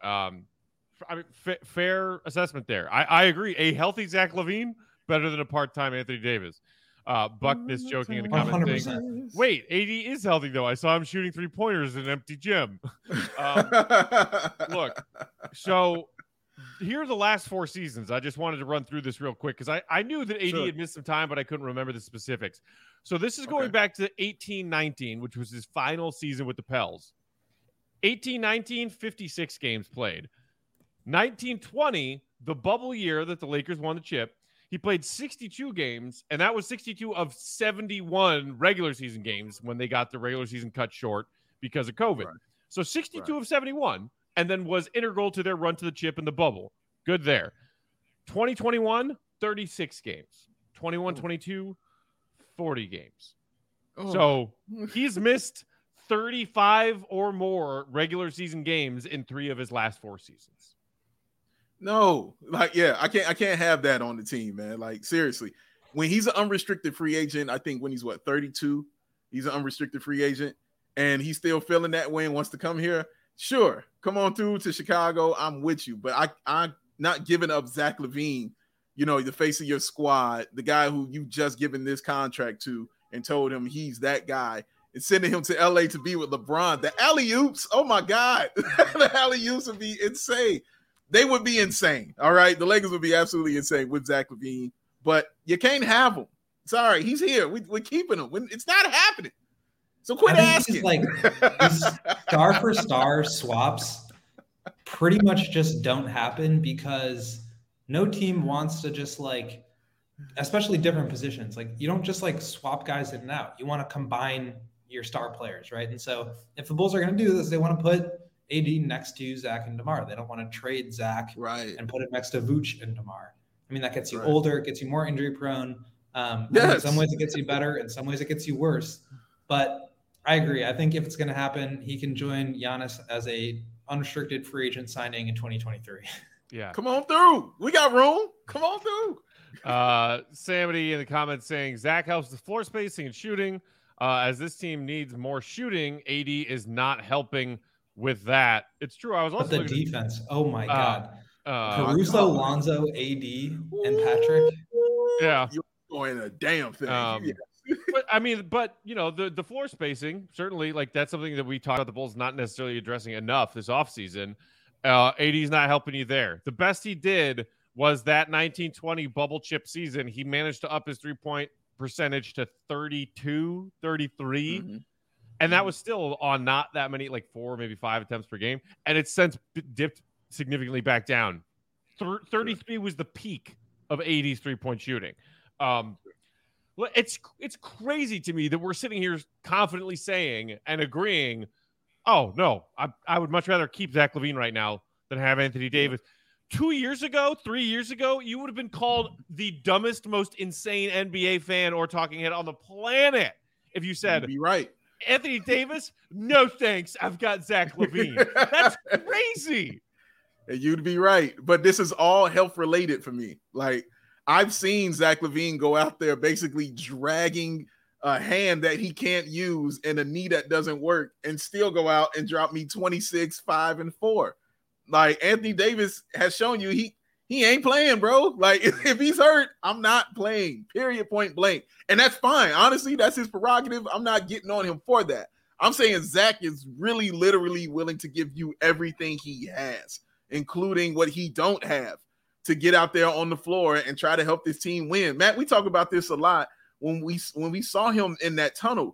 Fair assessment there. I agree. A healthy Zach LaVine better than a part-time Anthony Davis. Buckness joking in the comments saying, wait, AD is healthy, though. I saw him shooting 3-pointers in an empty gym. Look, so here are the last 4 seasons. I just wanted to run through this real quick because I knew that AD had missed some time, but I couldn't remember the specifics. So this is going back to 18-19, which was his final season with the Pels. 18-19, 56 games played. 19-20, the bubble year that the Lakers won the chip, he played 62 games, and that was 62 of 71 regular season games when they got the regular season cut short because of COVID. So 62 Right. of 71, and then was integral to their run to the chip in the bubble. Good there. 2021, 36 games. 21-22, 40 games. Oh. So he's missed 35 or more regular season games in 3 of his last 4 seasons. No, like, yeah, I can't have that on the team, man. Like, seriously, when he's an unrestricted free agent, I think when he's 32, he's an unrestricted free agent, and he's still feeling that way and wants to come here. Sure, come on through to Chicago. I'm with you, but I'm not giving up Zach LaVine, the face of your squad, the guy who you just given this contract to and told him he's that guy, and sending him to LA to be with LeBron. The alley-oops, oh my God, the alley-oops would be insane. They would be insane. All right. The Lakers would be absolutely insane with Zach LaVine, but you can't have him. Sorry. He's here. We're keeping him. It's not happening. So quit asking. These star for star swaps pretty much just don't happen because no team wants to just especially different positions. You don't just swap guys in and out. You want to combine your star players, right? And so if the Bulls are going to do this, they want to put AD next to Zach and DeMar. They don't want to trade Zach and put it next to Vooch and DeMar. I mean, that gets you older, it gets you more injury prone. In some ways it gets you better, in some ways it gets you worse. But I agree. I think if it's going to happen, he can join Giannis as a unrestricted free agent signing in 2023. Yeah. Come on through. We got room. Come on through. Samity in the comments saying Zach helps the floor spacing and shooting. As this team needs more shooting, AD is not helping with that. It's true. I was also the defense. Oh my God. Caruso, Lonzo, AD, and Patrick. Yeah. You're doing a damn thing. But the floor spacing, certainly, that's something that we talked about the Bulls not necessarily addressing enough this offseason. AD's not helping you there. The best he did was that 1920 bubble chip season. He managed to up his 3-point percentage to 32, 33. Mm-hmm. And that was still on not that many, 4, maybe 5 attempts per game. And it's since dipped significantly back down. 33 was the peak of AD's 3-point shooting. It's crazy to me that we're sitting here confidently saying and agreeing, oh, no, I would much rather keep Zach LaVine right now than have Anthony Davis. 2 years ago, 3 years ago, you would have been called the dumbest, most insane NBA fan or talking head on the planet if you said, you'd be right. Anthony Davis, no thanks. I've got Zach LaVine. That's crazy. And you'd be right. But this is all health related for me. I've seen Zach LaVine go out there basically dragging a hand that he can't use and a knee that doesn't work and still go out and drop me 26, 5, and 4. Anthony Davis has shown you he ain't playing, bro. If he's hurt, I'm not playing, period, point blank. And that's fine. Honestly, that's his prerogative. I'm not getting on him for that. I'm saying Zach is really literally willing to give you everything he has, including what he don't have, to get out there on the floor and try to help this team win. Matt, we talk about this a lot when we saw him in that tunnel.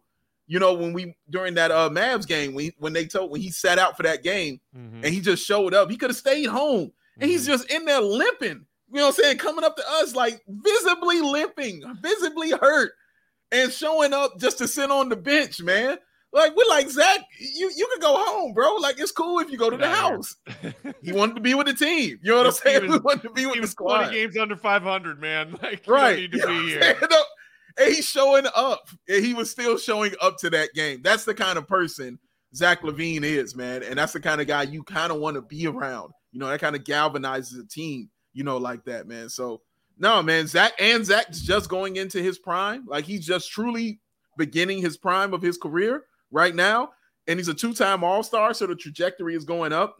During that Mavs game, when he sat out for that game, and he just showed up, he could have stayed home. And he's just in there limping, coming up to us, visibly limping, visibly hurt, and showing up just to sit on the bench, man. We're like, Zach, you can go home, bro. It's cool if you go to the house. He wanted to be with the team. You know what I'm saying? We wanted to be with the squad. 20 games under 500, man. You right. Don't need to be here. And he's showing up. And he was still showing up to that game. That's the kind of person Zach LaVine is, man. And that's the kind of guy you kind of want to be around. That kind of galvanizes a team, like that, man. So, no, man, Zach's just going into his prime. He's just truly beginning his prime of his career right now. And he's a 2-time All-Star, so the trajectory is going up.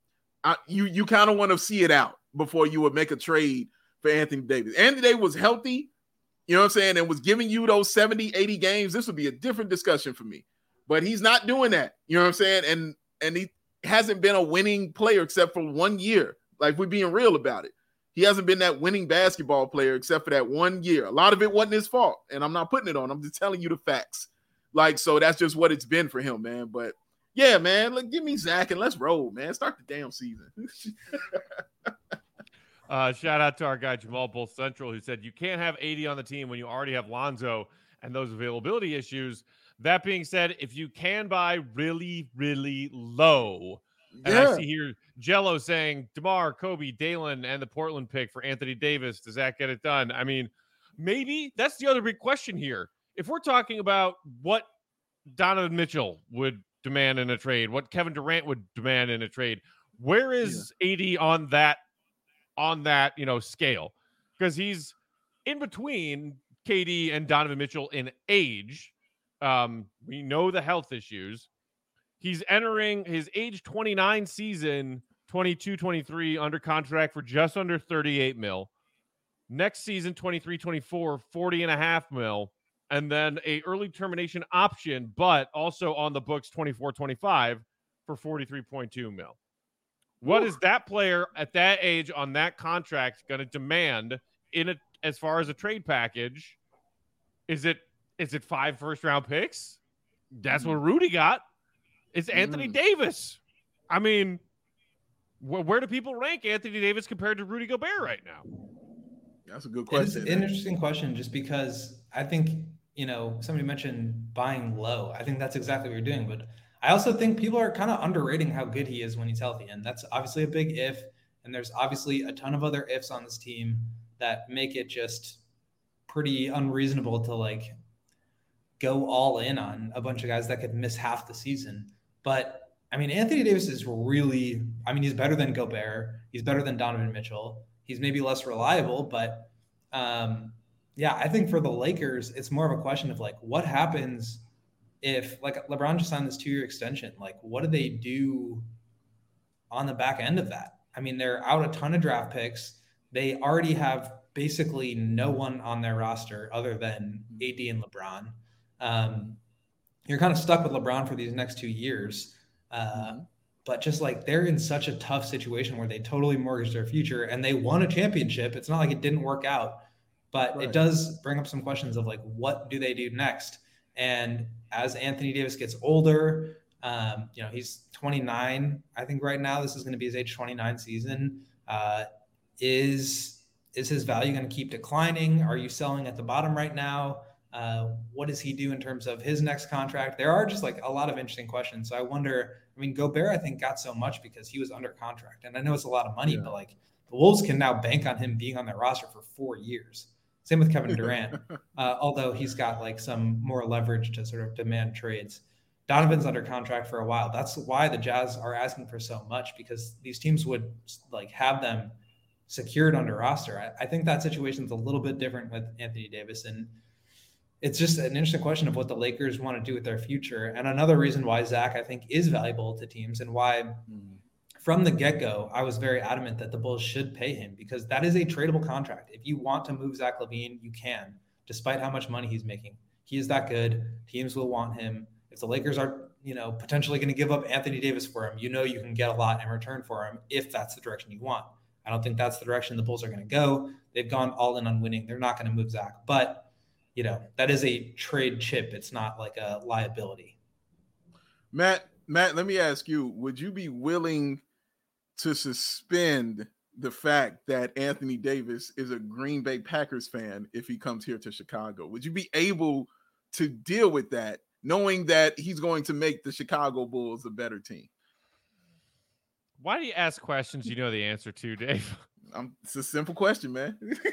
You kind of want to see it out before you would make a trade for Anthony Davis. Anthony Davis was healthy, you know what I'm saying, and was giving you those 70, 80 games. This would be a different discussion for me. But he's not doing that, you know what I'm saying? And he hasn't been a winning player except for 1 year. We're being real about it. He hasn't been that winning basketball player except for that 1 year. A lot of it wasn't his fault, and I'm not putting it on. I'm just telling you the facts. So that's just what it's been for him, man. But yeah, man, give me Zach and let's roll, man. Start the damn season. Shout out to our guy Jamal Bull Central, who said you can't have AD on the team when you already have Lonzo and those availability issues. That being said, if you can buy really, really low, and I see here Jello saying DeMar, Kobe, Dalen, and the Portland pick for Anthony Davis. Does that get it done? I mean, maybe that's the other big question here. If we're talking about what Donovan Mitchell would demand in a trade, what Kevin Durant would demand in a trade, where is AD on that scale? Because he's in between KD and Donovan Mitchell in age. We know the health issues. He's entering his age 29 season, 22-23, under contract for just under 38 mil. Next season, 23-24, 40.5 mil. And then a early termination option, but also on the books 24-25 for 43.2 mil. What is that player at that age on that contract going to demand as far as a trade package? Is it 5 first-round picks? That's what Rudy got. It's Anthony Davis. I mean, where do people rank Anthony Davis compared to Rudy Gobert right now? That's a good question. It's an interesting question just because I think, somebody mentioned buying low. I think that's exactly what you're doing. But I also think people are kind of underrating how good he is when he's healthy. And that's obviously a big if. And there's obviously a ton of other ifs on this team that make it just pretty unreasonable to go all in on a bunch of guys that could miss half the season. But I mean, Anthony Davis is really, he's better than Gobert. He's better than Donovan Mitchell. He's maybe less reliable, but I think for the Lakers, it's more of a question of what happens if LeBron just signed this 2-year extension. What do they do on the back end of that? I mean, they're out a ton of draft picks. They already have basically no one on their roster other than AD and LeBron. You're kind of stuck with LeBron for these next 2 years. But just they're in such a tough situation where they totally mortgage their future and they won a championship. It's not like it didn't work out, but It does bring up some questions of what do they do next? And as Anthony Davis gets older, he's 29, I think right now. This is going to be his age 29 season. Is his value going to keep declining? Are you selling at the bottom right now? What does he do in terms of his next contract? There are just a lot of interesting questions. So I wonder, Gobert, I think, got so much because he was under contract. And I know it's a lot of money, but the Wolves can now bank on him being on their roster for 4 years. Same with Kevin Durant, although he's got some more leverage to sort of demand trades. Donovan's under contract for a while. That's why the Jazz are asking for so much, because these teams would have them secured under roster. I think that situation's a little bit different with Anthony Davis, and it's just an interesting question of what the Lakers want to do with their future. And another reason why Zach, I think, is valuable to teams, and why from the get-go, I was very adamant that the Bulls should pay him, because that is a tradable contract. If you want to move Zach LaVine, you can, despite how much money he's making. He is that good. Teams will want him. If the Lakers are, potentially going to give up Anthony Davis for him, you can get a lot in return for him if that's the direction you want. I don't think that's the direction the Bulls are going to go. They've gone all in on winning. They're not going to move Zach, but that is a trade chip. It's not a liability. Matt, let me ask you, would you be willing to suspend the fact that Anthony Davis is a Green Bay Packers fan if he comes here to Chicago? Would you be able to deal with that, knowing that he's going to make the Chicago Bulls a better team? Why do you ask questions you know the answer to, Dave? It's a simple question, man.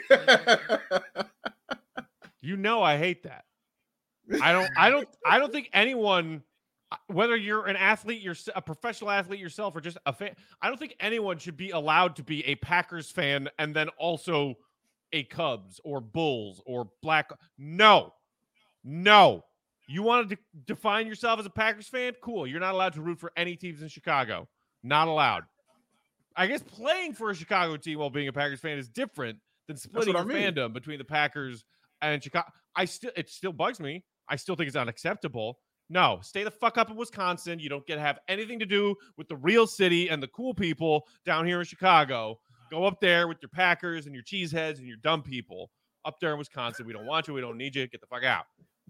I hate that. I don't think anyone, whether you're an athlete, you're a professional athlete yourself, or just a fan, I don't think anyone should be allowed to be a Packers fan and then also a Cubs or Bulls or Black. No. You want to define yourself as a Packers fan? Cool. You're not allowed to root for any teams in Chicago. Not allowed. I guess playing for a Chicago team while being a Packers fan is different than splitting your fandom between the Packers and Chicago. It still bugs me. I still think it's unacceptable. No, stay the fuck up in Wisconsin. You don't get to have anything to do with the real city and the cool people down here in Chicago. Go up there with your Packers and your cheeseheads and your dumb people up there in Wisconsin. We don't want you. We don't need you. Get the fuck out.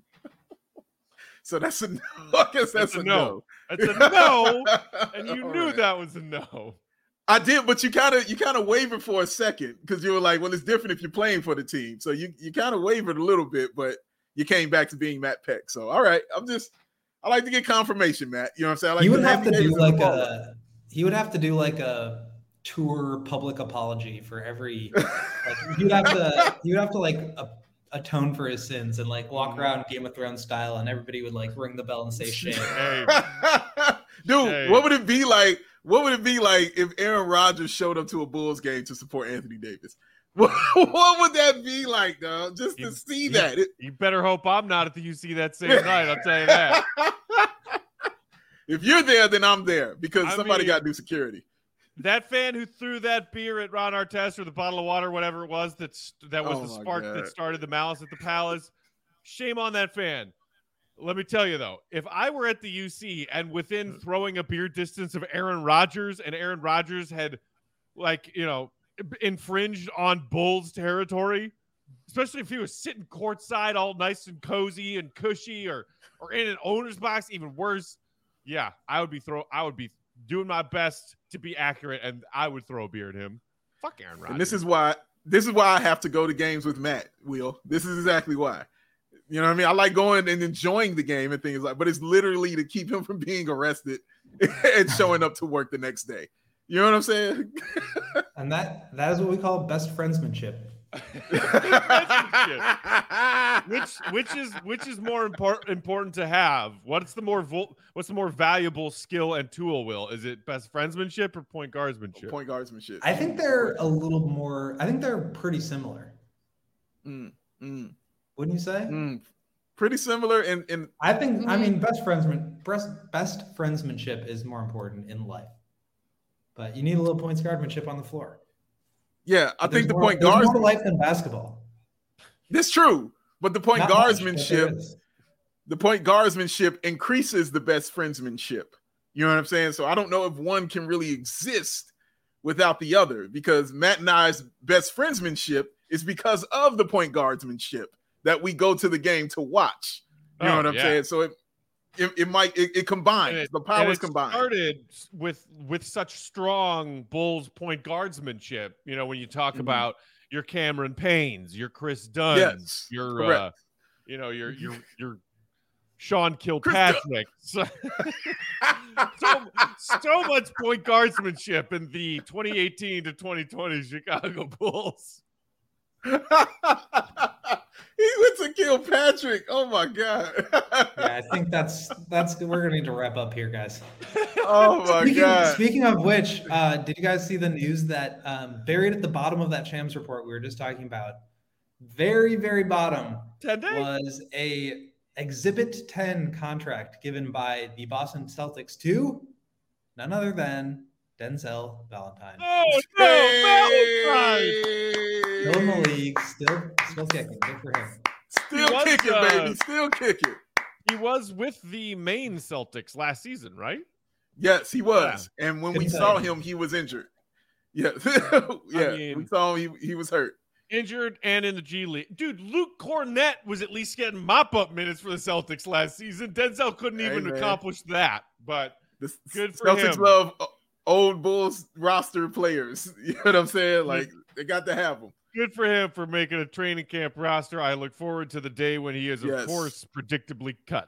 So that's a no. I guess that's a no. That's a no. And you knew that was a no. I did, but you kind of wavered for a second, because you were like, well, it's different if you're playing for the team. So you kind of wavered a little bit, but you came back to being Matt Peck. So, all right, I like to get confirmation, Matt. You know what I'm saying? I like he would have to Anthony do Davis like is a he would have to do like a tour public apology for every like he would have to like atone for his sins and like walk around Game of Thrones style, and everybody would like ring the bell and say shame. Hey, Dude, hey. what would it be like? What would it be like if Aaron Rodgers showed up to a Bulls game to support Anthony Davis? What would that be like, dog? Just to see that. You better hope I'm not at the UC that same night. I'll tell you that. If you're there, then I'm there because somebody got to do security. That fan who threw that beer at Ron Artest or the bottle of water, whatever it was, that was the spark that started the malice at the Palace. Shame on that fan. Let me tell you, though, if I were at the UC and within throwing a beer distance of Aaron Rodgers and Aaron Rodgers had, infringed on Bulls territory, especially if he was sitting courtside all nice and cozy and cushy or in an owner's box, even worse. Yeah, I would be doing my best to be accurate, and I would throw a beer at him. Fuck Aaron Rodgers. And this is why I have to go to games with Matt, Will. This is exactly why. You know what I mean? I like going and enjoying the game and things like, but it's literally to keep him from being arrested and showing up to work the next day. You know what I'm saying? And that is what we call best friendsmanship. which is more important to have? What's the more valuable skill and tool? Will, is it best friendsmanship or point guardsmanship? Point guardsmanship. I think they're a little more. I think they're pretty similar. Wouldn't you say? Pretty similar. And I think best friendsmanship is more important in life. But you need a little points guardsmanship on the floor. Yeah, I think the point guards more life than basketball. That's true, but the point guardsmanship increases the best friendsmanship. You know what I'm saying? So I don't know if one can really exist without the other, because Matt and I's best friendsmanship is because of the point guardsmanship that we go to the game to watch. You know what I'm saying? So it combines. The powers combine. Started with such strong Bulls point guardsmanship. You know, when you talk about your Cameron Paynes, your Chris Dunns, your Sean Kilpatrick. So much point guardsmanship in the 2018 to 2020 Chicago Bulls. He went to Kilpatrick. Oh my God. Yeah, I think that's we're gonna need to wrap up here, guys. Oh my God. Speaking of which, did you guys see the news that buried at the bottom of that Shams report we were just talking about? Very, very bottom was a Exhibit 10 contract given by the Boston Celtics to none other than Denzel Valentine. Oh no, Valentine! Still in the league, still kicking. Good for him. Still kicking, baby. Still kicking. He was with the Maine Celtics last season, right? Yes, he was. Yeah. And when we saw him, he was injured. Yeah. We saw him, he was hurt. Injured and in the G League. Dude, Luke Cornett was at least getting mop-up minutes for the Celtics last season. Denzel couldn't even accomplish that, but good for him. Celtics love old Bulls roster players. You know what I'm saying? Like, they got to have them. Good for him for making a training camp roster. I look forward to the day when he is, of course, predictably cut.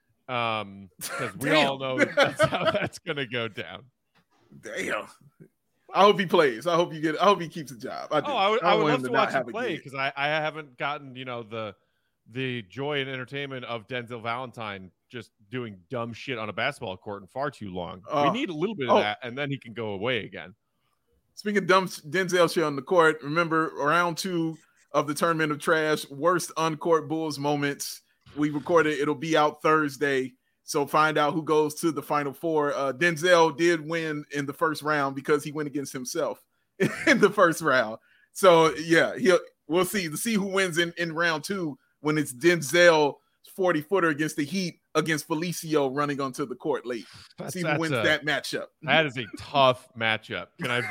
Because we all know that's how that's going to go down. Damn. I hope he plays. I hope he keeps a job. I would love to watch him play, because I haven't gotten, the joy and entertainment of Denzel Valentine just doing dumb shit on a basketball court in far too long. We need a little bit of that, and then he can go away again. Speaking of dumb Denzel shit on the court, remember round 2 of the Tournament of Trash, worst on-court Bulls moments. We recorded. It'll be out Thursday. So find out who goes to the Final Four. Denzel did win in the first round because he went against himself in the first round. So yeah, we'll see. To see who wins in round 2 when it's Denzel 40-footer against the Heat against Felicio running onto the court late. See who wins that matchup. That is a tough matchup. Can I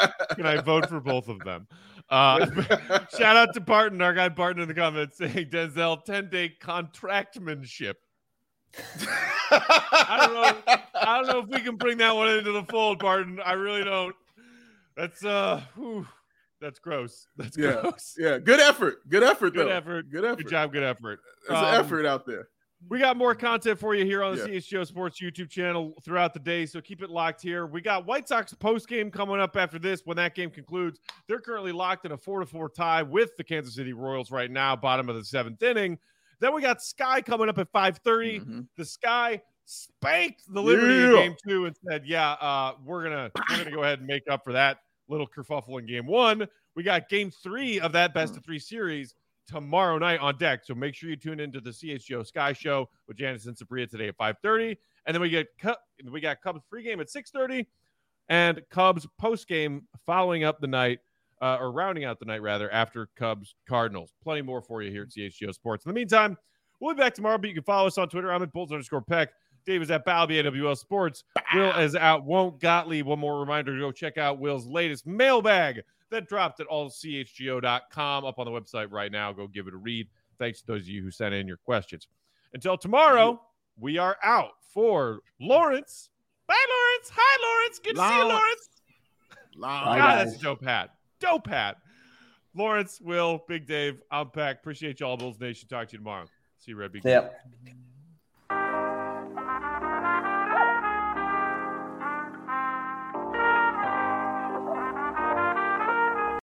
vote for both of them? Shout out to Barton, our guy Barton in the comments saying Denzel 10-day contractmanship. I don't know if we can bring that one into the fold, Barton. I really don't. That's That's gross. That's Yeah. gross. Yeah. Good effort. Good effort, Good though. effort. Good effort. Good job. Good effort. There's an effort out there. We got more content for you here on the Yeah. CHGO Sports YouTube channel throughout the day, so keep it locked here. We got White Sox post-game coming up after this. When that game concludes, they're currently locked in a 4-4 tie with the Kansas City Royals right now, bottom of the 7th inning. Then we got Sky coming up at 5:30. Mm-hmm. The Sky spanked the Liberty in game 2 and said, we're gonna go ahead and make up for that little kerfuffle in game 1. We got game 3 of that best of 3 series tomorrow night on deck. So make sure you tune into the CHGO Sky Show with Janice and Sabria today at 5:30. And then we got Cubs pregame at 6:30 and Cubs postgame following up the night, or rounding out the night rather, after Cubs Cardinals. Plenty more for you here at CHGO Sports. In the meantime, we'll be back tomorrow, but you can follow us on Twitter. I'm at Bulls_Peck. Dave is at Balby AWL Sports. Will is out. Won't Gottlieb. One more reminder to go check out Will's latest mailbag that dropped at allchgo.com up on the website right now. Go give it a read. Thanks to those of you who sent in your questions. Until tomorrow, we are out for Lawrence. Bye, Lawrence. Hi, Lawrence. Good to see you, Lawrence. God, that's dope hat. Dope hat. Lawrence, Will, Big Dave, I'm Peck. Appreciate y'all, Bulls Nation. Talk to you tomorrow. See you, Red. Yep.